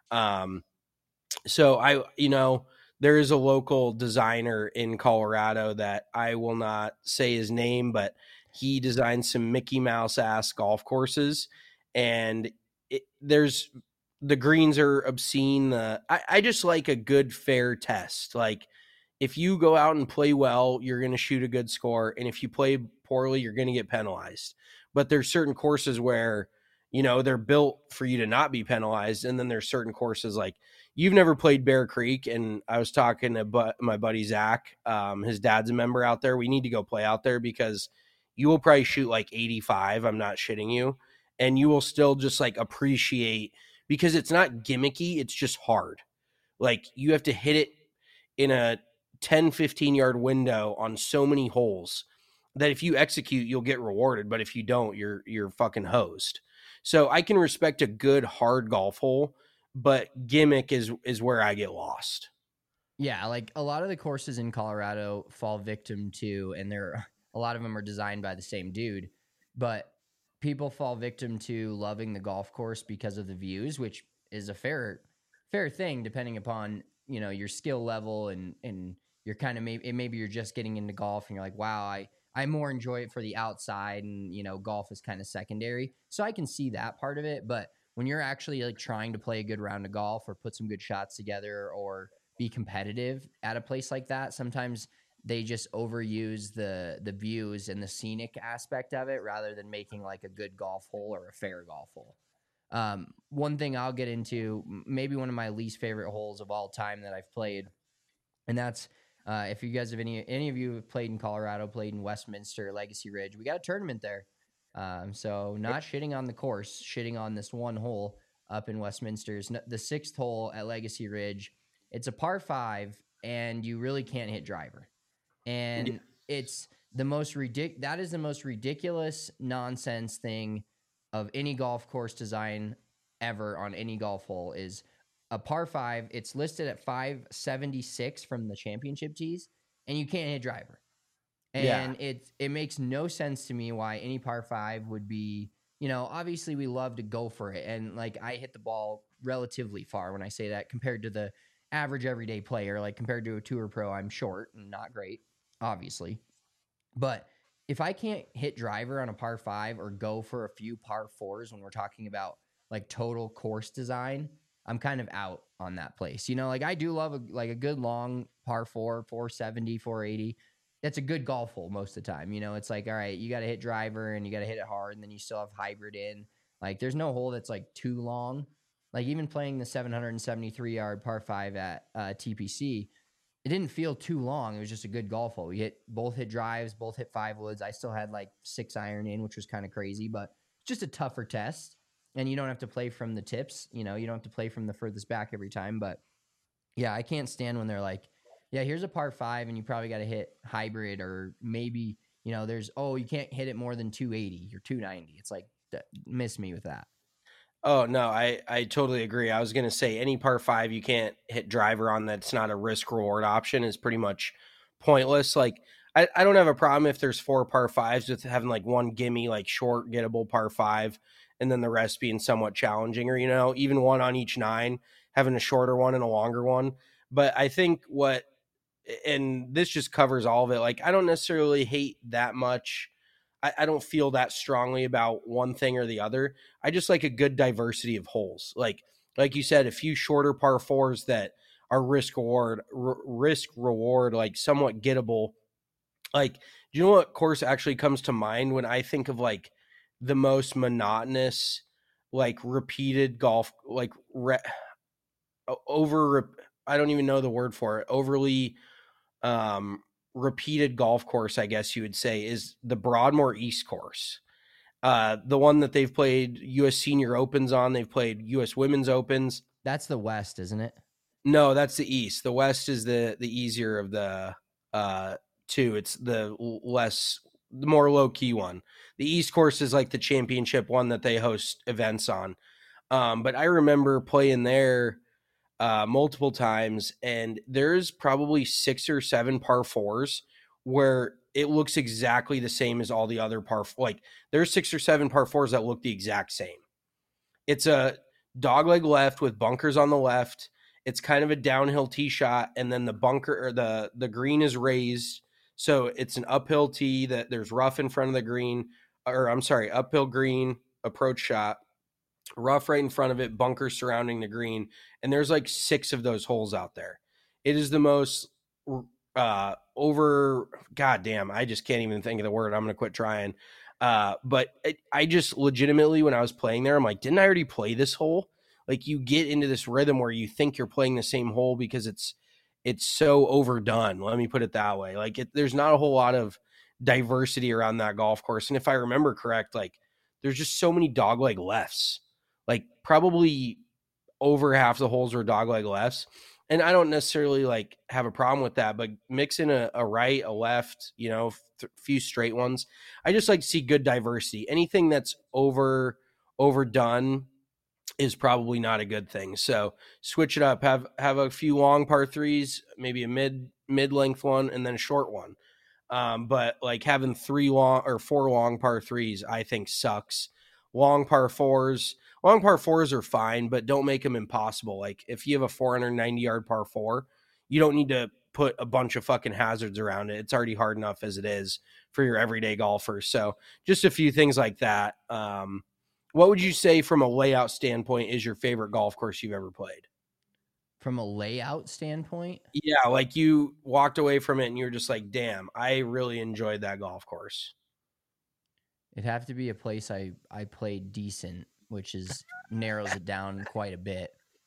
So there is a local designer in Colorado that I will not say his name, but he designed some Mickey Mouse ass golf courses, and the greens are obscene. I just like a good fair test. Like, if you go out and play well, you're going to shoot a good score. And if you play poorly, you're going to get penalized. But there's certain courses where, they're built for you to not be penalized. And then there's certain courses, like, you've never played Bear Creek. And I was talking to my buddy, Zach, his dad's a member out there. We need to go play out there because you will probably shoot like 85. I'm not shitting you. And you will still just like appreciate, because it's not gimmicky. It's just hard. Like, you have to hit it in a 10, 15 yard window on so many holes that if you execute, you'll get rewarded. But if you don't, you're fucking hosed. So I can respect a good hard golf hole, but gimmick is where I get lost. Yeah. Like, a lot of the courses in Colorado fall victim to, and a lot of them are designed by the same dude, but people fall victim to loving the golf course because of the views, which is a fair thing depending upon, your skill level and you're kind of maybe you're just getting into golf and you're like, wow, I more enjoy it for the outside, and golf is kind of secondary. So I can see that part of it, but when you're actually like trying to play a good round of golf or put some good shots together or be competitive at a place like that, sometimes they just overuse the views and the scenic aspect of it rather than making like a good golf hole or a fair golf hole. One thing I'll get into, maybe one of my least favorite holes of all time that I've played, and that's if you guys have any of you have played in Colorado, played in Westminster, Legacy Ridge, we got a tournament there. So not shitting on the course, shitting on this one hole up in Westminster. The 6th hole at Legacy Ridge. It's a par 5, and you really can't hit driver. And it's the most ridiculous nonsense thing of any golf course design ever on any golf hole is a par 5. It's listed at 576 from the championship tees, and you can't hit driver. And it makes no sense to me why any par 5 would be, obviously we love to go for it. And like, I hit the ball relatively far when I say that compared to the average everyday player. Like, compared to a tour pro, I'm short and not great, obviously. But if I can't hit driver on a par 5 or go for a few par 4s when we're talking about like total course design, I'm kind of out on that place. Like, I do love a good long par 4, 470, 480. That's a good golf hole most of the time. It's like, all right, you got to hit driver and you got to hit it hard, and then you still have hybrid in. Like, there's no hole that's like too long. Like, even playing the 773 yard par 5 at TPC, it didn't feel too long. It was just a good golf hole. We both hit drives, both hit 5 woods. I still had like 6 iron in, which was kind of crazy, but just a tougher test. and you don't have to play from the tips. You don't have to play from the furthest back every time. But yeah, I can't stand when they're like, yeah, here's a par 5 and you probably got to hit hybrid, or maybe, you can't hit it more than 280 or 290. It's like, miss me with that. Oh, no, I totally agree. I was going to say any par 5 you can't hit driver on that's not a risk reward option is pretty much pointless. Like, I don't have a problem if there's 4 par 5s with having like one gimme, like short gettable par 5, and then the rest being somewhat challenging, or, even one on each 9, having a shorter one and a longer one. But I think and this just covers all of it. Like, I don't necessarily hate that much. I don't feel that strongly about one thing or the other. I just like a good diversity of holes. Like you said, a few shorter par 4s that are risk reward, like somewhat gettable. Like, do you know what course actually comes to mind when I think of like the most monotonous, like repeated golf, like I don't even know the word for it. Overly repeated golf course, I guess you would say, is the Broadmoor East course. The one that they've played U.S. Senior Opens on. They've played U.S. Women's Opens. That's the West, isn't it? No, that's the East. The West is the easier of the two. It's the more low-key one. The East course is like the championship one that they host events on. But I remember playing there multiple times, and there's probably 6 or 7 par 4s where it looks exactly the same as all the other like there's 6 or 7 par 4s that look the exact same. It's a dogleg left with bunkers on the left. It's kind of a downhill tee shot, and then the bunker or the green is raised, so it's an uphill tee that there's rough in front of the green, or I'm sorry, uphill green approach shot, rough right in front of it, bunkers surrounding the green, and there's like 6 of those holes out there. It is the most goddamn, I just can't even think of the word. I'm gonna quit trying. But I just legitimately, when I was playing there, I'm like, didn't I already play this hole? Like, you get into this rhythm where you think you're playing the same hole because it's so overdone. Let me put it that way. Like, there's not a whole lot of diversity around that golf course. And if I remember correct, like, there's just so many dogleg lefts. Like, probably over half the holes were dogleg lefts. And I don't necessarily like have a problem with that, but mix in a right, a left, few straight ones. I just like to see good diversity. Anything that's overdone is probably not a good thing. So switch it up. Have a few long par 3s, maybe a mid-length one, and then a short one. But like having 4 long par 3s, I think sucks. Long par 4s are fine, but don't make them impossible. Like, if you have a 490-yard par 4, you don't need to put a bunch of fucking hazards around it. It's already hard enough as it is for your everyday golfers. So just a few things like that. What would you say from a layout standpoint is your favorite golf course you've ever played? From a layout standpoint? Yeah, like you walked away from it and you were just like, damn, I really enjoyed that golf course. It'd have to be a place I played decent, which narrows it down quite a bit.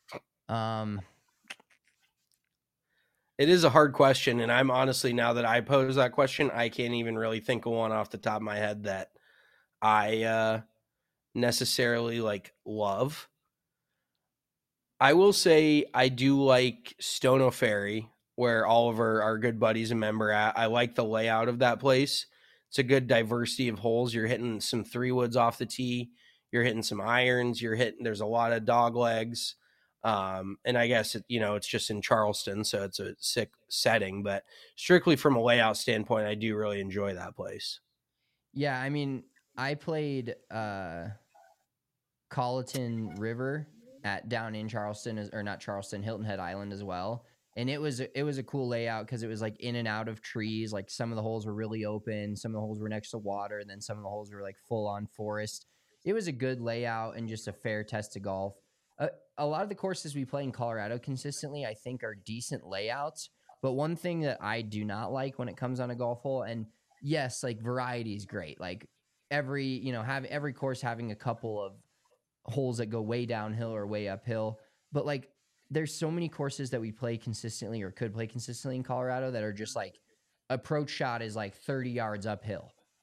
It is a hard question, and I'm honestly, now that I pose that question, I can't even really think of one off the top of my head that I necessarily like love. I will say I do like Stono Ferry, where all of our good buddies and member at. I like the layout of that place. It's a good diversity of holes. You're hitting some 3-woods off the tee. You're hitting some irons. There's a lot of dog legs. And I guess, it's just in Charleston, so it's a sick setting. But strictly from a layout standpoint, I do really enjoy that place. Yeah, I mean, I played Colleton River down in Charleston, or not Charleston, Hilton Head Island as well. And it was a cool layout because it was like in and out of trees. Like, some of the holes were really open, some of the holes were next to water, and then some of the holes were like full on forest. It was a good layout and just a fair test of golf. A lot of the courses we play in Colorado consistently, I think, are decent layouts. But one thing that I do not like when it comes on a golf hole, and yes, like, variety is great. Like, every course having a couple of holes that go way downhill or way uphill. But like, there's so many courses that we play consistently or could play consistently in Colorado that are just like, approach shot is like 30 yards uphill.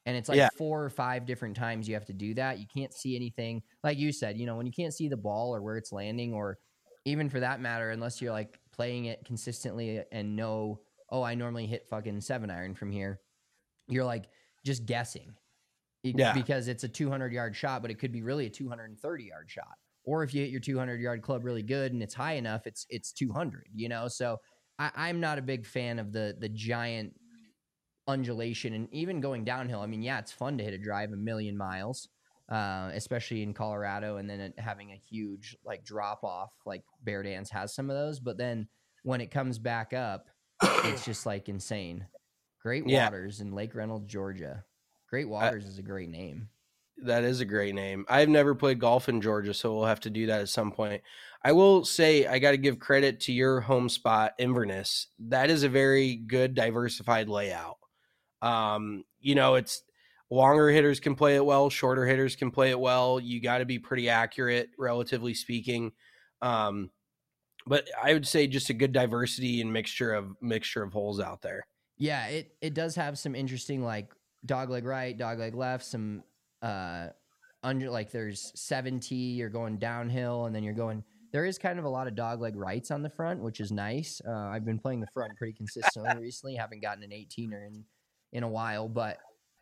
And it's like 4 or 5 different times you have to do that. You can't see anything. Like you said, when you can't see the ball or where it's landing, or even for that matter, unless you're like playing it consistently and know, oh, I normally hit fucking 7-iron from here. You're like just guessing because it's a 200-yard shot, but it could be really a 230-yard shot. Or if you hit your 200-yard club really good and it's high enough, it's 200, So I'm not a big fan of the giant undulation, and even going downhill. I mean, yeah, it's fun to hit a drive 1,000,000 miles, especially in Colorado, and then having a huge like drop off, like Bear Dance has some of those. But then when it comes back up, it's just like insane. Great Waters in Lake Reynolds, Georgia. Great Waters is a great name. That is a great name. I've never played golf in Georgia, so we'll have to do that at some point. I will say I got to give credit to your home spot, Inverness. That is a very good diversified layout. It's longer hitters can play it well, shorter hitters can play it well. You got to be pretty accurate, relatively speaking. But I would say just a good diversity and mixture of holes out there. Yeah, it does have some interesting like dogleg right, dogleg left, some under like there's 70, you're going downhill, and then there is kind of a lot of dogleg rights on the front, which is nice. I've been playing the front pretty consistently recently. Haven't gotten an 18er in a while, but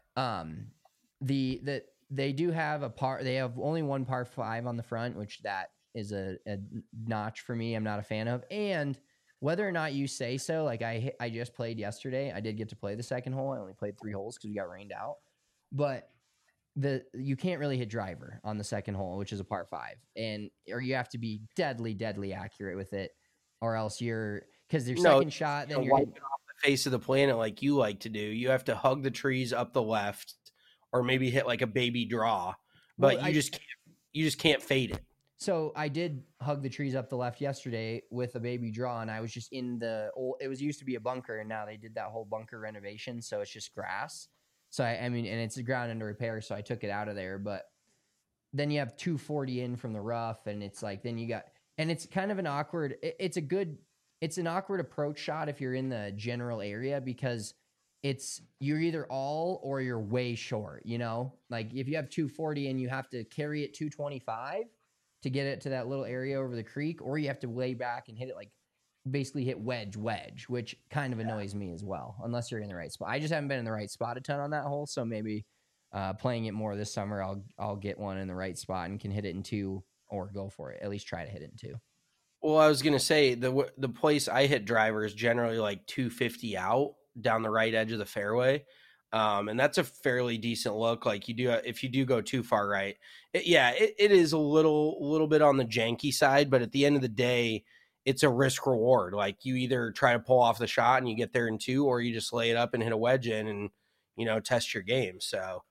they do have they have only one par 5 on the front, which that is a notch for me. I'm not a fan of. And whether or not you say so, like I just played yesterday. I did get to play the second hole. I only played 3 holes because we got rained out, but you can't really hit driver on the second hole, which is a par 5, or you have to be deadly accurate with it, or else because their second shot, then you're hitting off the face of the planet like you like to do. You have to hug the trees up the left, or maybe hit like a baby draw, but you just can't fade it. So I did hug the trees up the left yesterday with a baby draw, and I was just in it was used to be a bunker, and now they did that whole bunker renovation, so it's just grass. So I mean, and it's a ground under repair, so I took it out of there. But then you have 240 in from the rough, and it's like and it's kind of an awkward. It's an awkward approach shot if you're in the general area, because you're either all or you're way short. Like if you have 240 and you have to carry it 225 to get it to that little area over the creek, or you have to lay back and hit it basically hit wedge, which kind of annoys me as well, unless you're in the right spot. I just haven't been in the right spot a ton on that hole, so maybe playing it more this summer, I'll get one in the right spot and can hit it in 2, or go for it. At least try to hit it in 2. Well, I was gonna say the place I hit driver is generally like 250 out down the right edge of the fairway, and that's a fairly decent look. Like if you do go too far right, it is a little bit on the janky side, but at the end of the day, it's a risk reward. Like you either try to pull off the shot and you get there in 2, or you just lay it up and hit a wedge in and, test your game. So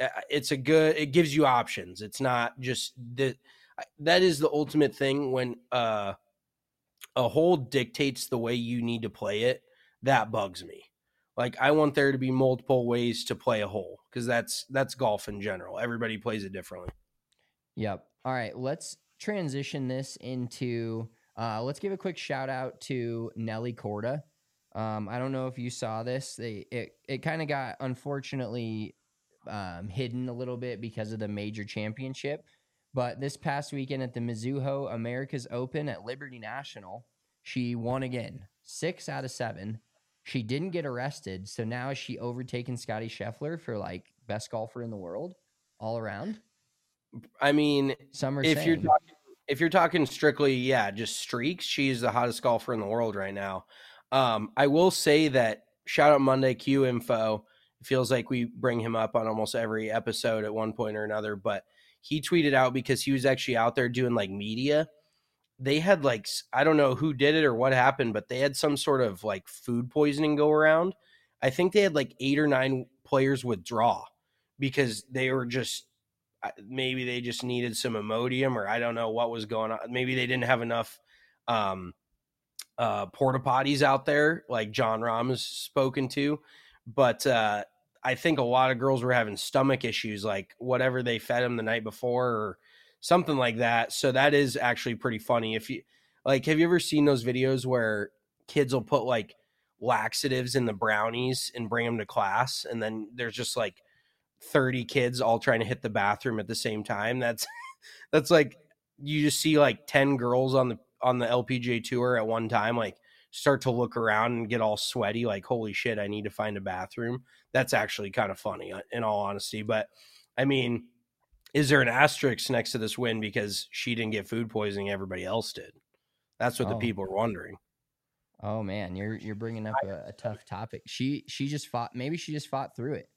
it gives you options. It's not just that is the ultimate thing when a hole dictates the way you need to play it. That bugs me. Like I want there to be multiple ways to play a hole, because that's golf in general. Everybody plays it differently. Yep. All right, let's transition this into let's give a quick shout out to Nelly Korda. I don't know if you saw this. It kind of got unfortunately hidden a little bit because of the major championship. But this past weekend at the Mizuho America's Open at Liberty National, she won again, 6 out of 7. She didn't get arrested, so now is she overtaken Scotty Scheffler for like best golfer in the world all around? I mean, if you're talking strictly, just streaks, she's the hottest golfer in the world right now. I will say that shout out Monday Q Info. It feels like we bring him up on almost every episode at one point or another, but he tweeted out because he was actually out there doing like media. They had like, I don't know who did it or what happened, but they had some sort of like food poisoning go around. I think they had like 8 or 9 players withdraw because they were maybe they just needed some Imodium, or I don't know what was going on. Maybe they didn't have enough porta potties out there like John Rahm has spoken to. But I think a lot of girls were having stomach issues, like whatever they fed them the night before or something like that. So that is actually pretty funny. If you have you ever seen those videos where kids will put like laxatives in the brownies and bring them to class, and then there's just like 30 kids all trying to hit the bathroom at the same time. That's like you just see like 10 girls on the LPGA tour at one time, like start to look around and get all sweaty, like, holy shit, I need to find a bathroom. That's actually kind of funny, in all honesty. But I mean, is there an asterisk next to this win because she didn't get food poisoning, everybody else did? That's what the people are wondering. Oh man, you're bringing up a tough topic. She just fought. Maybe she just fought through it.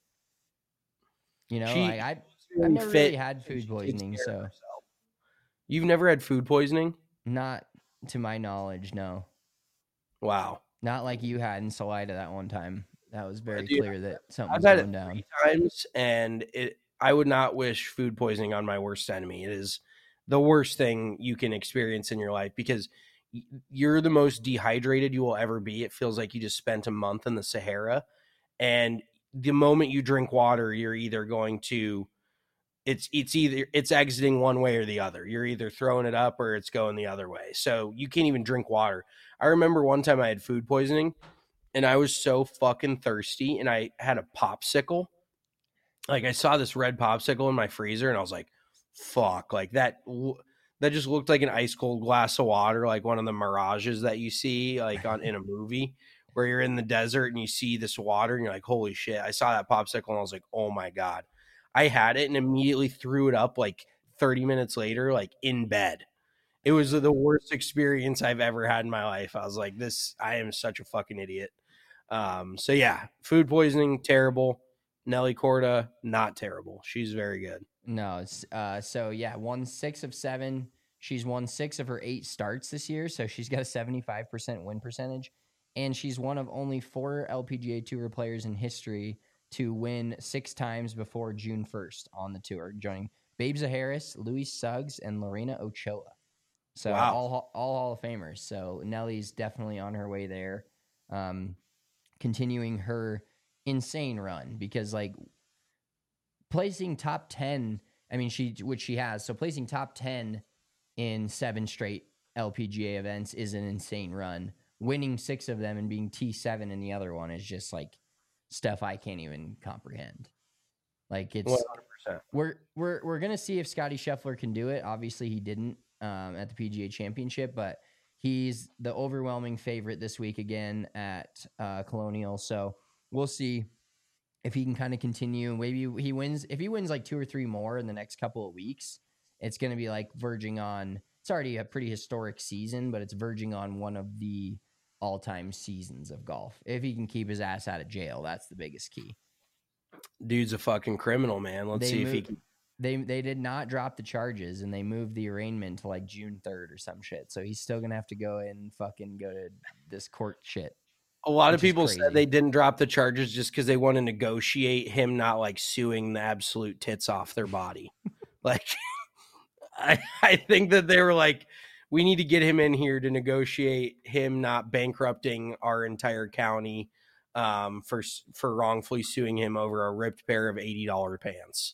You know, I've never really had food poisoning. So you've never had food poisoning? Not to my knowledge, no. Wow. Not like you had in Salida that one time. That was very clear that something was going down. I've had it 3 times, and I would not wish food poisoning on my worst enemy. It is the worst thing you can experience in your life because you're the most dehydrated you will ever be. It feels like you just spent a month in the Sahara, and the moment you drink water, you're either going to it's exiting one way or the other. You're either throwing it up or it's going the other way. So you can't even drink water. I remember one time I had food poisoning and I was so fucking thirsty and I had a popsicle. Like I saw this red popsicle in my freezer and I was like, fuck, like that just looked like an ice cold glass of water, like one of the mirages that you see like in a movie where you're in the desert and you see this water and you're like, holy shit. I saw that popsicle and I was like, oh my God. I had it and immediately threw it up like 30 minutes later, like in bed. It was the worst experience I've ever had in my life. I was like, I am such a fucking idiot. So yeah, food poisoning, terrible. Nelly Corda, not terrible. She's very good. No, so yeah, won 6 of 7. She's won 6 of her 8 starts this year, so she's got a 75% win percentage, and she's one of only 4 LPGA Tour players in history to win 6 times before June 1st on the tour, joining Babe Zaharis, Luis Suggs, and Lorena Ochoa. So wow. all Hall of Famers. So Nelly's definitely on her way there, continuing her insane run because like placing top 10, I mean, which she has. So placing top 10 in 7 straight LPGA events is an insane run. Winning 6 of them and being T7 in the other one is just like stuff I can't even comprehend. Like it's 100%. We're gonna see if Scottie Scheffler can do it. Obviously he didn't at the PGA Championship, but he's the overwhelming favorite this week again at Colonial. So we'll see if he can kind of continue. Maybe he wins. If he wins like 2 or 3 more in the next couple of weeks, it's going to be like verging on. It's already a pretty historic season, but it's verging on one of the all-time seasons of golf. If he can keep his ass out of jail, that's the biggest key. Dude's a fucking criminal, man. Let's see if he can. They did not drop the charges, and they moved the arraignment to like June 3rd or some shit. So he's still gonna have to go and fucking go to this court shit. A lot of people said they didn't drop the charges just because they want to negotiate him not like suing the absolute tits off their body. Like, I think that they were like, we need to get him in here to negotiate him not bankrupting our entire county for wrongfully suing him over a ripped pair of $80 pants.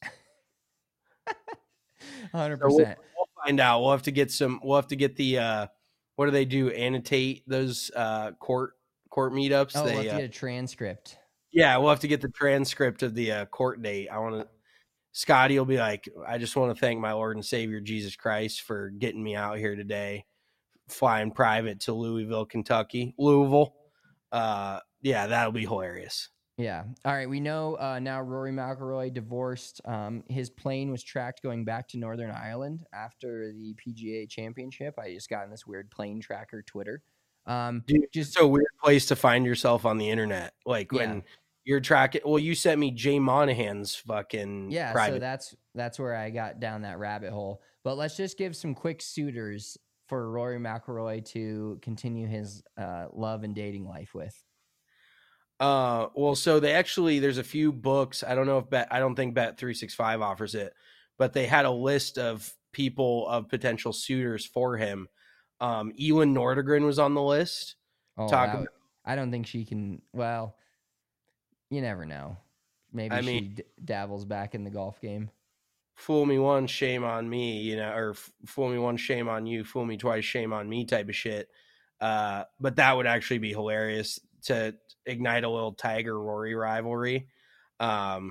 100%. So we'll find out. We'll have to get the what do they do? Annotate those court meetups. Oh, we'll have to get a transcript. Yeah, we'll have to get the transcript of the court date. Scotty will be like, I just want to thank my Lord and Savior Jesus Christ for getting me out here today, flying private to Louisville, Louisville. Yeah, that'll be hilarious. Yeah. All right. We know now Rory McIlroy divorced. His plane was tracked going back to Northern Ireland after the PGA Championship. I just got in this weird plane tracker Twitter. Dude, just a weird place to find yourself on the internet. Like when you're tracking. Well, you sent me Jay Monahan's fucking private. So that's where I got down that rabbit hole. But let's just give some quick suitors for Rory McIlroy to continue his love and dating life with. Well, so there's a few books. I don't know if I don't think Bet365 offers it, but they had a list of people of potential suitors for him. Elin Nordegren was on the list. I don't think she can. Well, you never know. Maybe she dabbles back in the golf game. Fool me once, shame on me, or fool me once, shame on you, fool me twice, shame on me type of shit. But that would actually be hilarious to ignite a little Tiger Rory rivalry.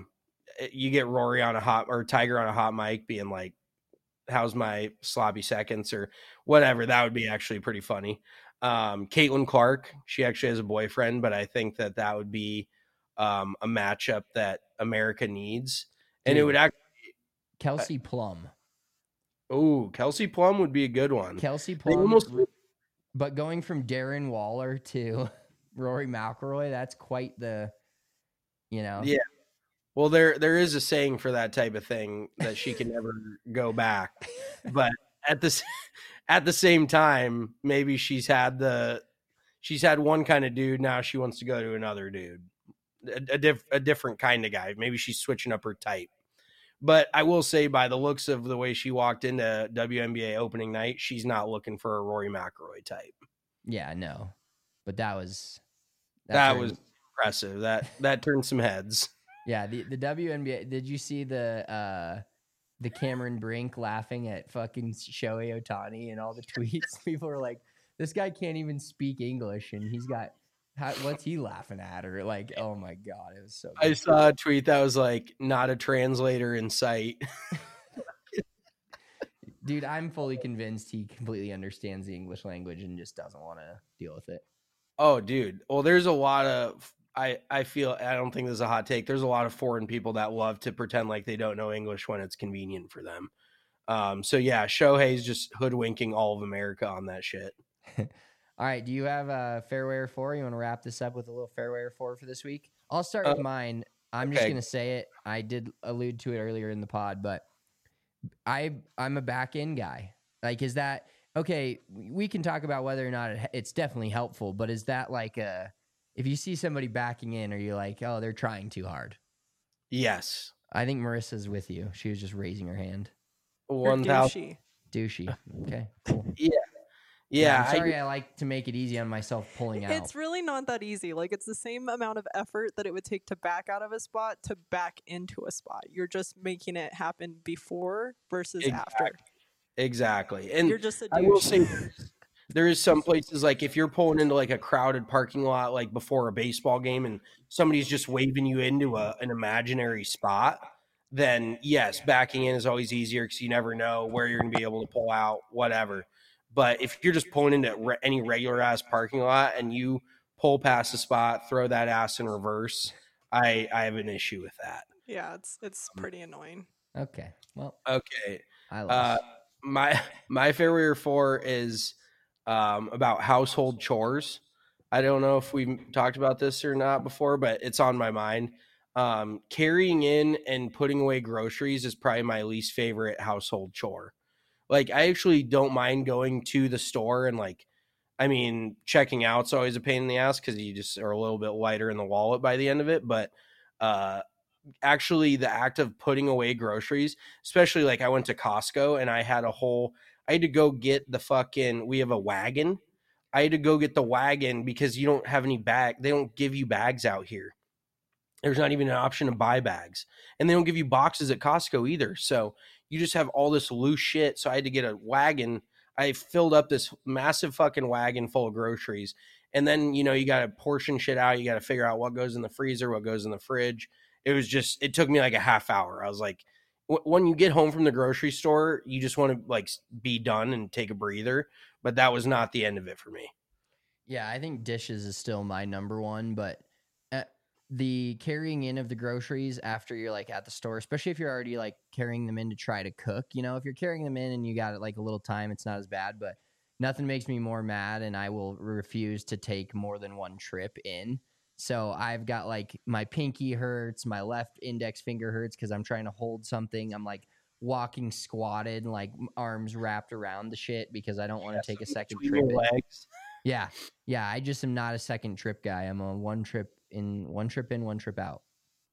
you get Rory on a hot or Tiger on a hot mic being like, how's my sloppy seconds or whatever. That would be actually pretty funny. Caitlin Clark, she actually has a boyfriend, but I think that would be a matchup that America needs. And Dude, it would actually Kelsey Plum. Oh, Kelsey Plum would be a good one. Kelsey They Plum, almost, but going from Darren Waller to Rory McIlroy, that's quite the, yeah. Well, there is a saying for that type of thing that she can never go back, but at the same time, maybe she's had one kind of dude. Now she wants to go to another dude, a different kind of guy. Maybe she's switching up her type. But I will say, by the looks of the way she walked into WNBA opening night, she's not looking for a Rory McIlroy type. Yeah, no, but that was impressive. That turned some heads. Yeah, the WNBA. Did you see the Cameron Brink laughing at fucking Shohei Ohtani and all the tweets? People were like, "This guy can't even speak English, and he's got what's he laughing at?" Or like, "Oh my god, it was so." Good. I saw a tweet that was like, "Not a translator in sight." Dude, I'm fully convinced he completely understands the English language and just doesn't want to deal with it. Oh, dude. Well, there's a lot of I feel, I don't think this is a hot take. There's a lot of foreign people that love to pretend like they don't know English when it's convenient for them. So yeah, Shohei's just hoodwinking all of America on that shit. All right. Do you have a fairway or four? You want to wrap this up with a little fairway or four for this week? I'll start with mine. I'm just going to say it. I did allude to it earlier in the pod, but I'm a back end guy. Like, is that okay? We can talk about whether or not it's definitely helpful, but is that like if you see somebody backing in, are you like, oh, they're trying too hard? Yes. I think Marissa's with you. She was just raising her hand. 1,000. Douchey. Okay, cool. Yeah. I'm sorry, I like to make it easy on myself pulling out. It's really not that easy. Like, it's the same amount of effort that it would take to back out of a spot to back into a spot. You're just making it happen before versus after. Exactly. And you're just a douche. I will say there is some places, like if you're pulling into like a crowded parking lot, like before a baseball game, and somebody's just waving you into an imaginary spot, then yes, backing in is always easier because you never know where you're going to be able to pull out, whatever. But if you're just pulling into any regular ass parking lot and you pull past the spot, throw that ass in reverse, I have an issue with that. Yeah, it's pretty annoying. Okay. Well. Okay. I lost. My fairway or four is about household chores. I don't know if we've talked about this or not before, but it's on my mind. Carrying in and putting away groceries is probably my least favorite household chore. Like, I actually don't mind going to the store and checking out's always a pain in the ass because you just are a little bit lighter in the wallet by the end of it. But actually the act of putting away groceries, especially like I went to Costco and I had to go get we have a wagon. I had to go get the wagon because you don't have any bag. They don't give you bags out here. There's not even an option to buy bags, and they don't give you boxes at Costco either. So you just have all this loose shit. So I had to get a wagon. I filled up this massive fucking wagon full of groceries. And then, you got to portion shit out. You got to figure out what goes in the freezer, what goes in the fridge. It took me like a half hour. I was like, when you get home from the grocery store, you just want to be done and take a breather. But that was not the end of it for me. Yeah, I think dishes is still my number one, but the carrying in of the groceries after you're at the store, especially if you're already carrying them in to try to cook, if you're carrying them in and you got it a little time, it's not as bad, but nothing makes me more mad. And I will refuse to take more than one trip in. So I've got my pinky hurts, my left index finger hurts because I'm trying to hold something. I'm walking squatted, arms wrapped around the shit because I don't want to take a second trip. Legs. Yeah. I just am not a second trip guy. I'm a one trip in, one trip out.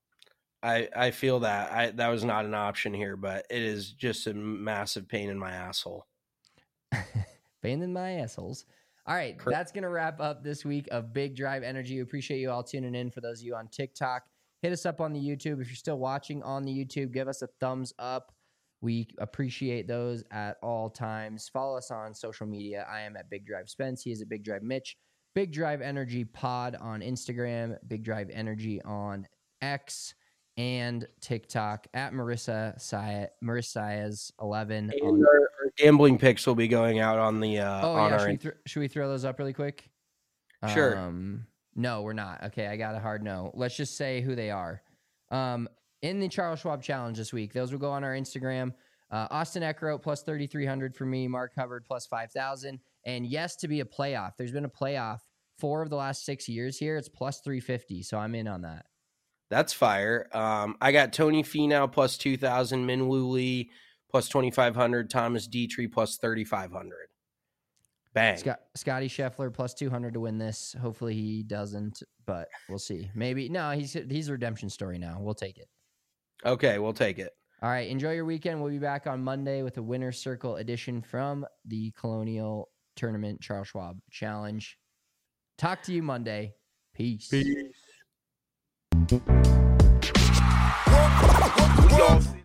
I feel that that was not an option here, but it is just a massive pain in my asshole. Pain in my assholes. All right, that's going to wrap up this week of Big Drive Energy. We appreciate you all tuning in. For those of you on TikTok, hit us up on the YouTube. If you're still watching on the YouTube, give us a thumbs up. We appreciate those at all times. Follow us on social media. I am at Big Drive Spence. He is at Big Drive Mitch. Big Drive Energy Pod on Instagram. Big Drive Energy on X. and TikTok at Marissa Saez 11. And our gambling picks will be going out on the on our. Should we throw those up really quick? Sure. No, we're not. Okay, I got a hard no. Let's just say who they are. In the Charles Schwab Challenge this week, those will go on our Instagram. Austin Eckroat plus 3,300 for me. Mark Hubbard plus 5,000. And yes, to be a playoff. There's been a playoff 4 of the last 6 years here. It's plus 350. So I'm in on that. That's fire. I got Tony Finau plus 2,000. Minwoo Lee plus 2,500. Thomas Dietrich plus 3,500. Bang. Scotty Scheffler plus 200 to win this. Hopefully he doesn't, but we'll see. Maybe. No, he's a redemption story now. We'll take it. Okay, we'll take it. All right, enjoy your weekend. We'll be back on Monday with a Winner's Circle edition from the Colonial Tournament Charles Schwab Challenge. Talk to you Monday. Peace. Peace.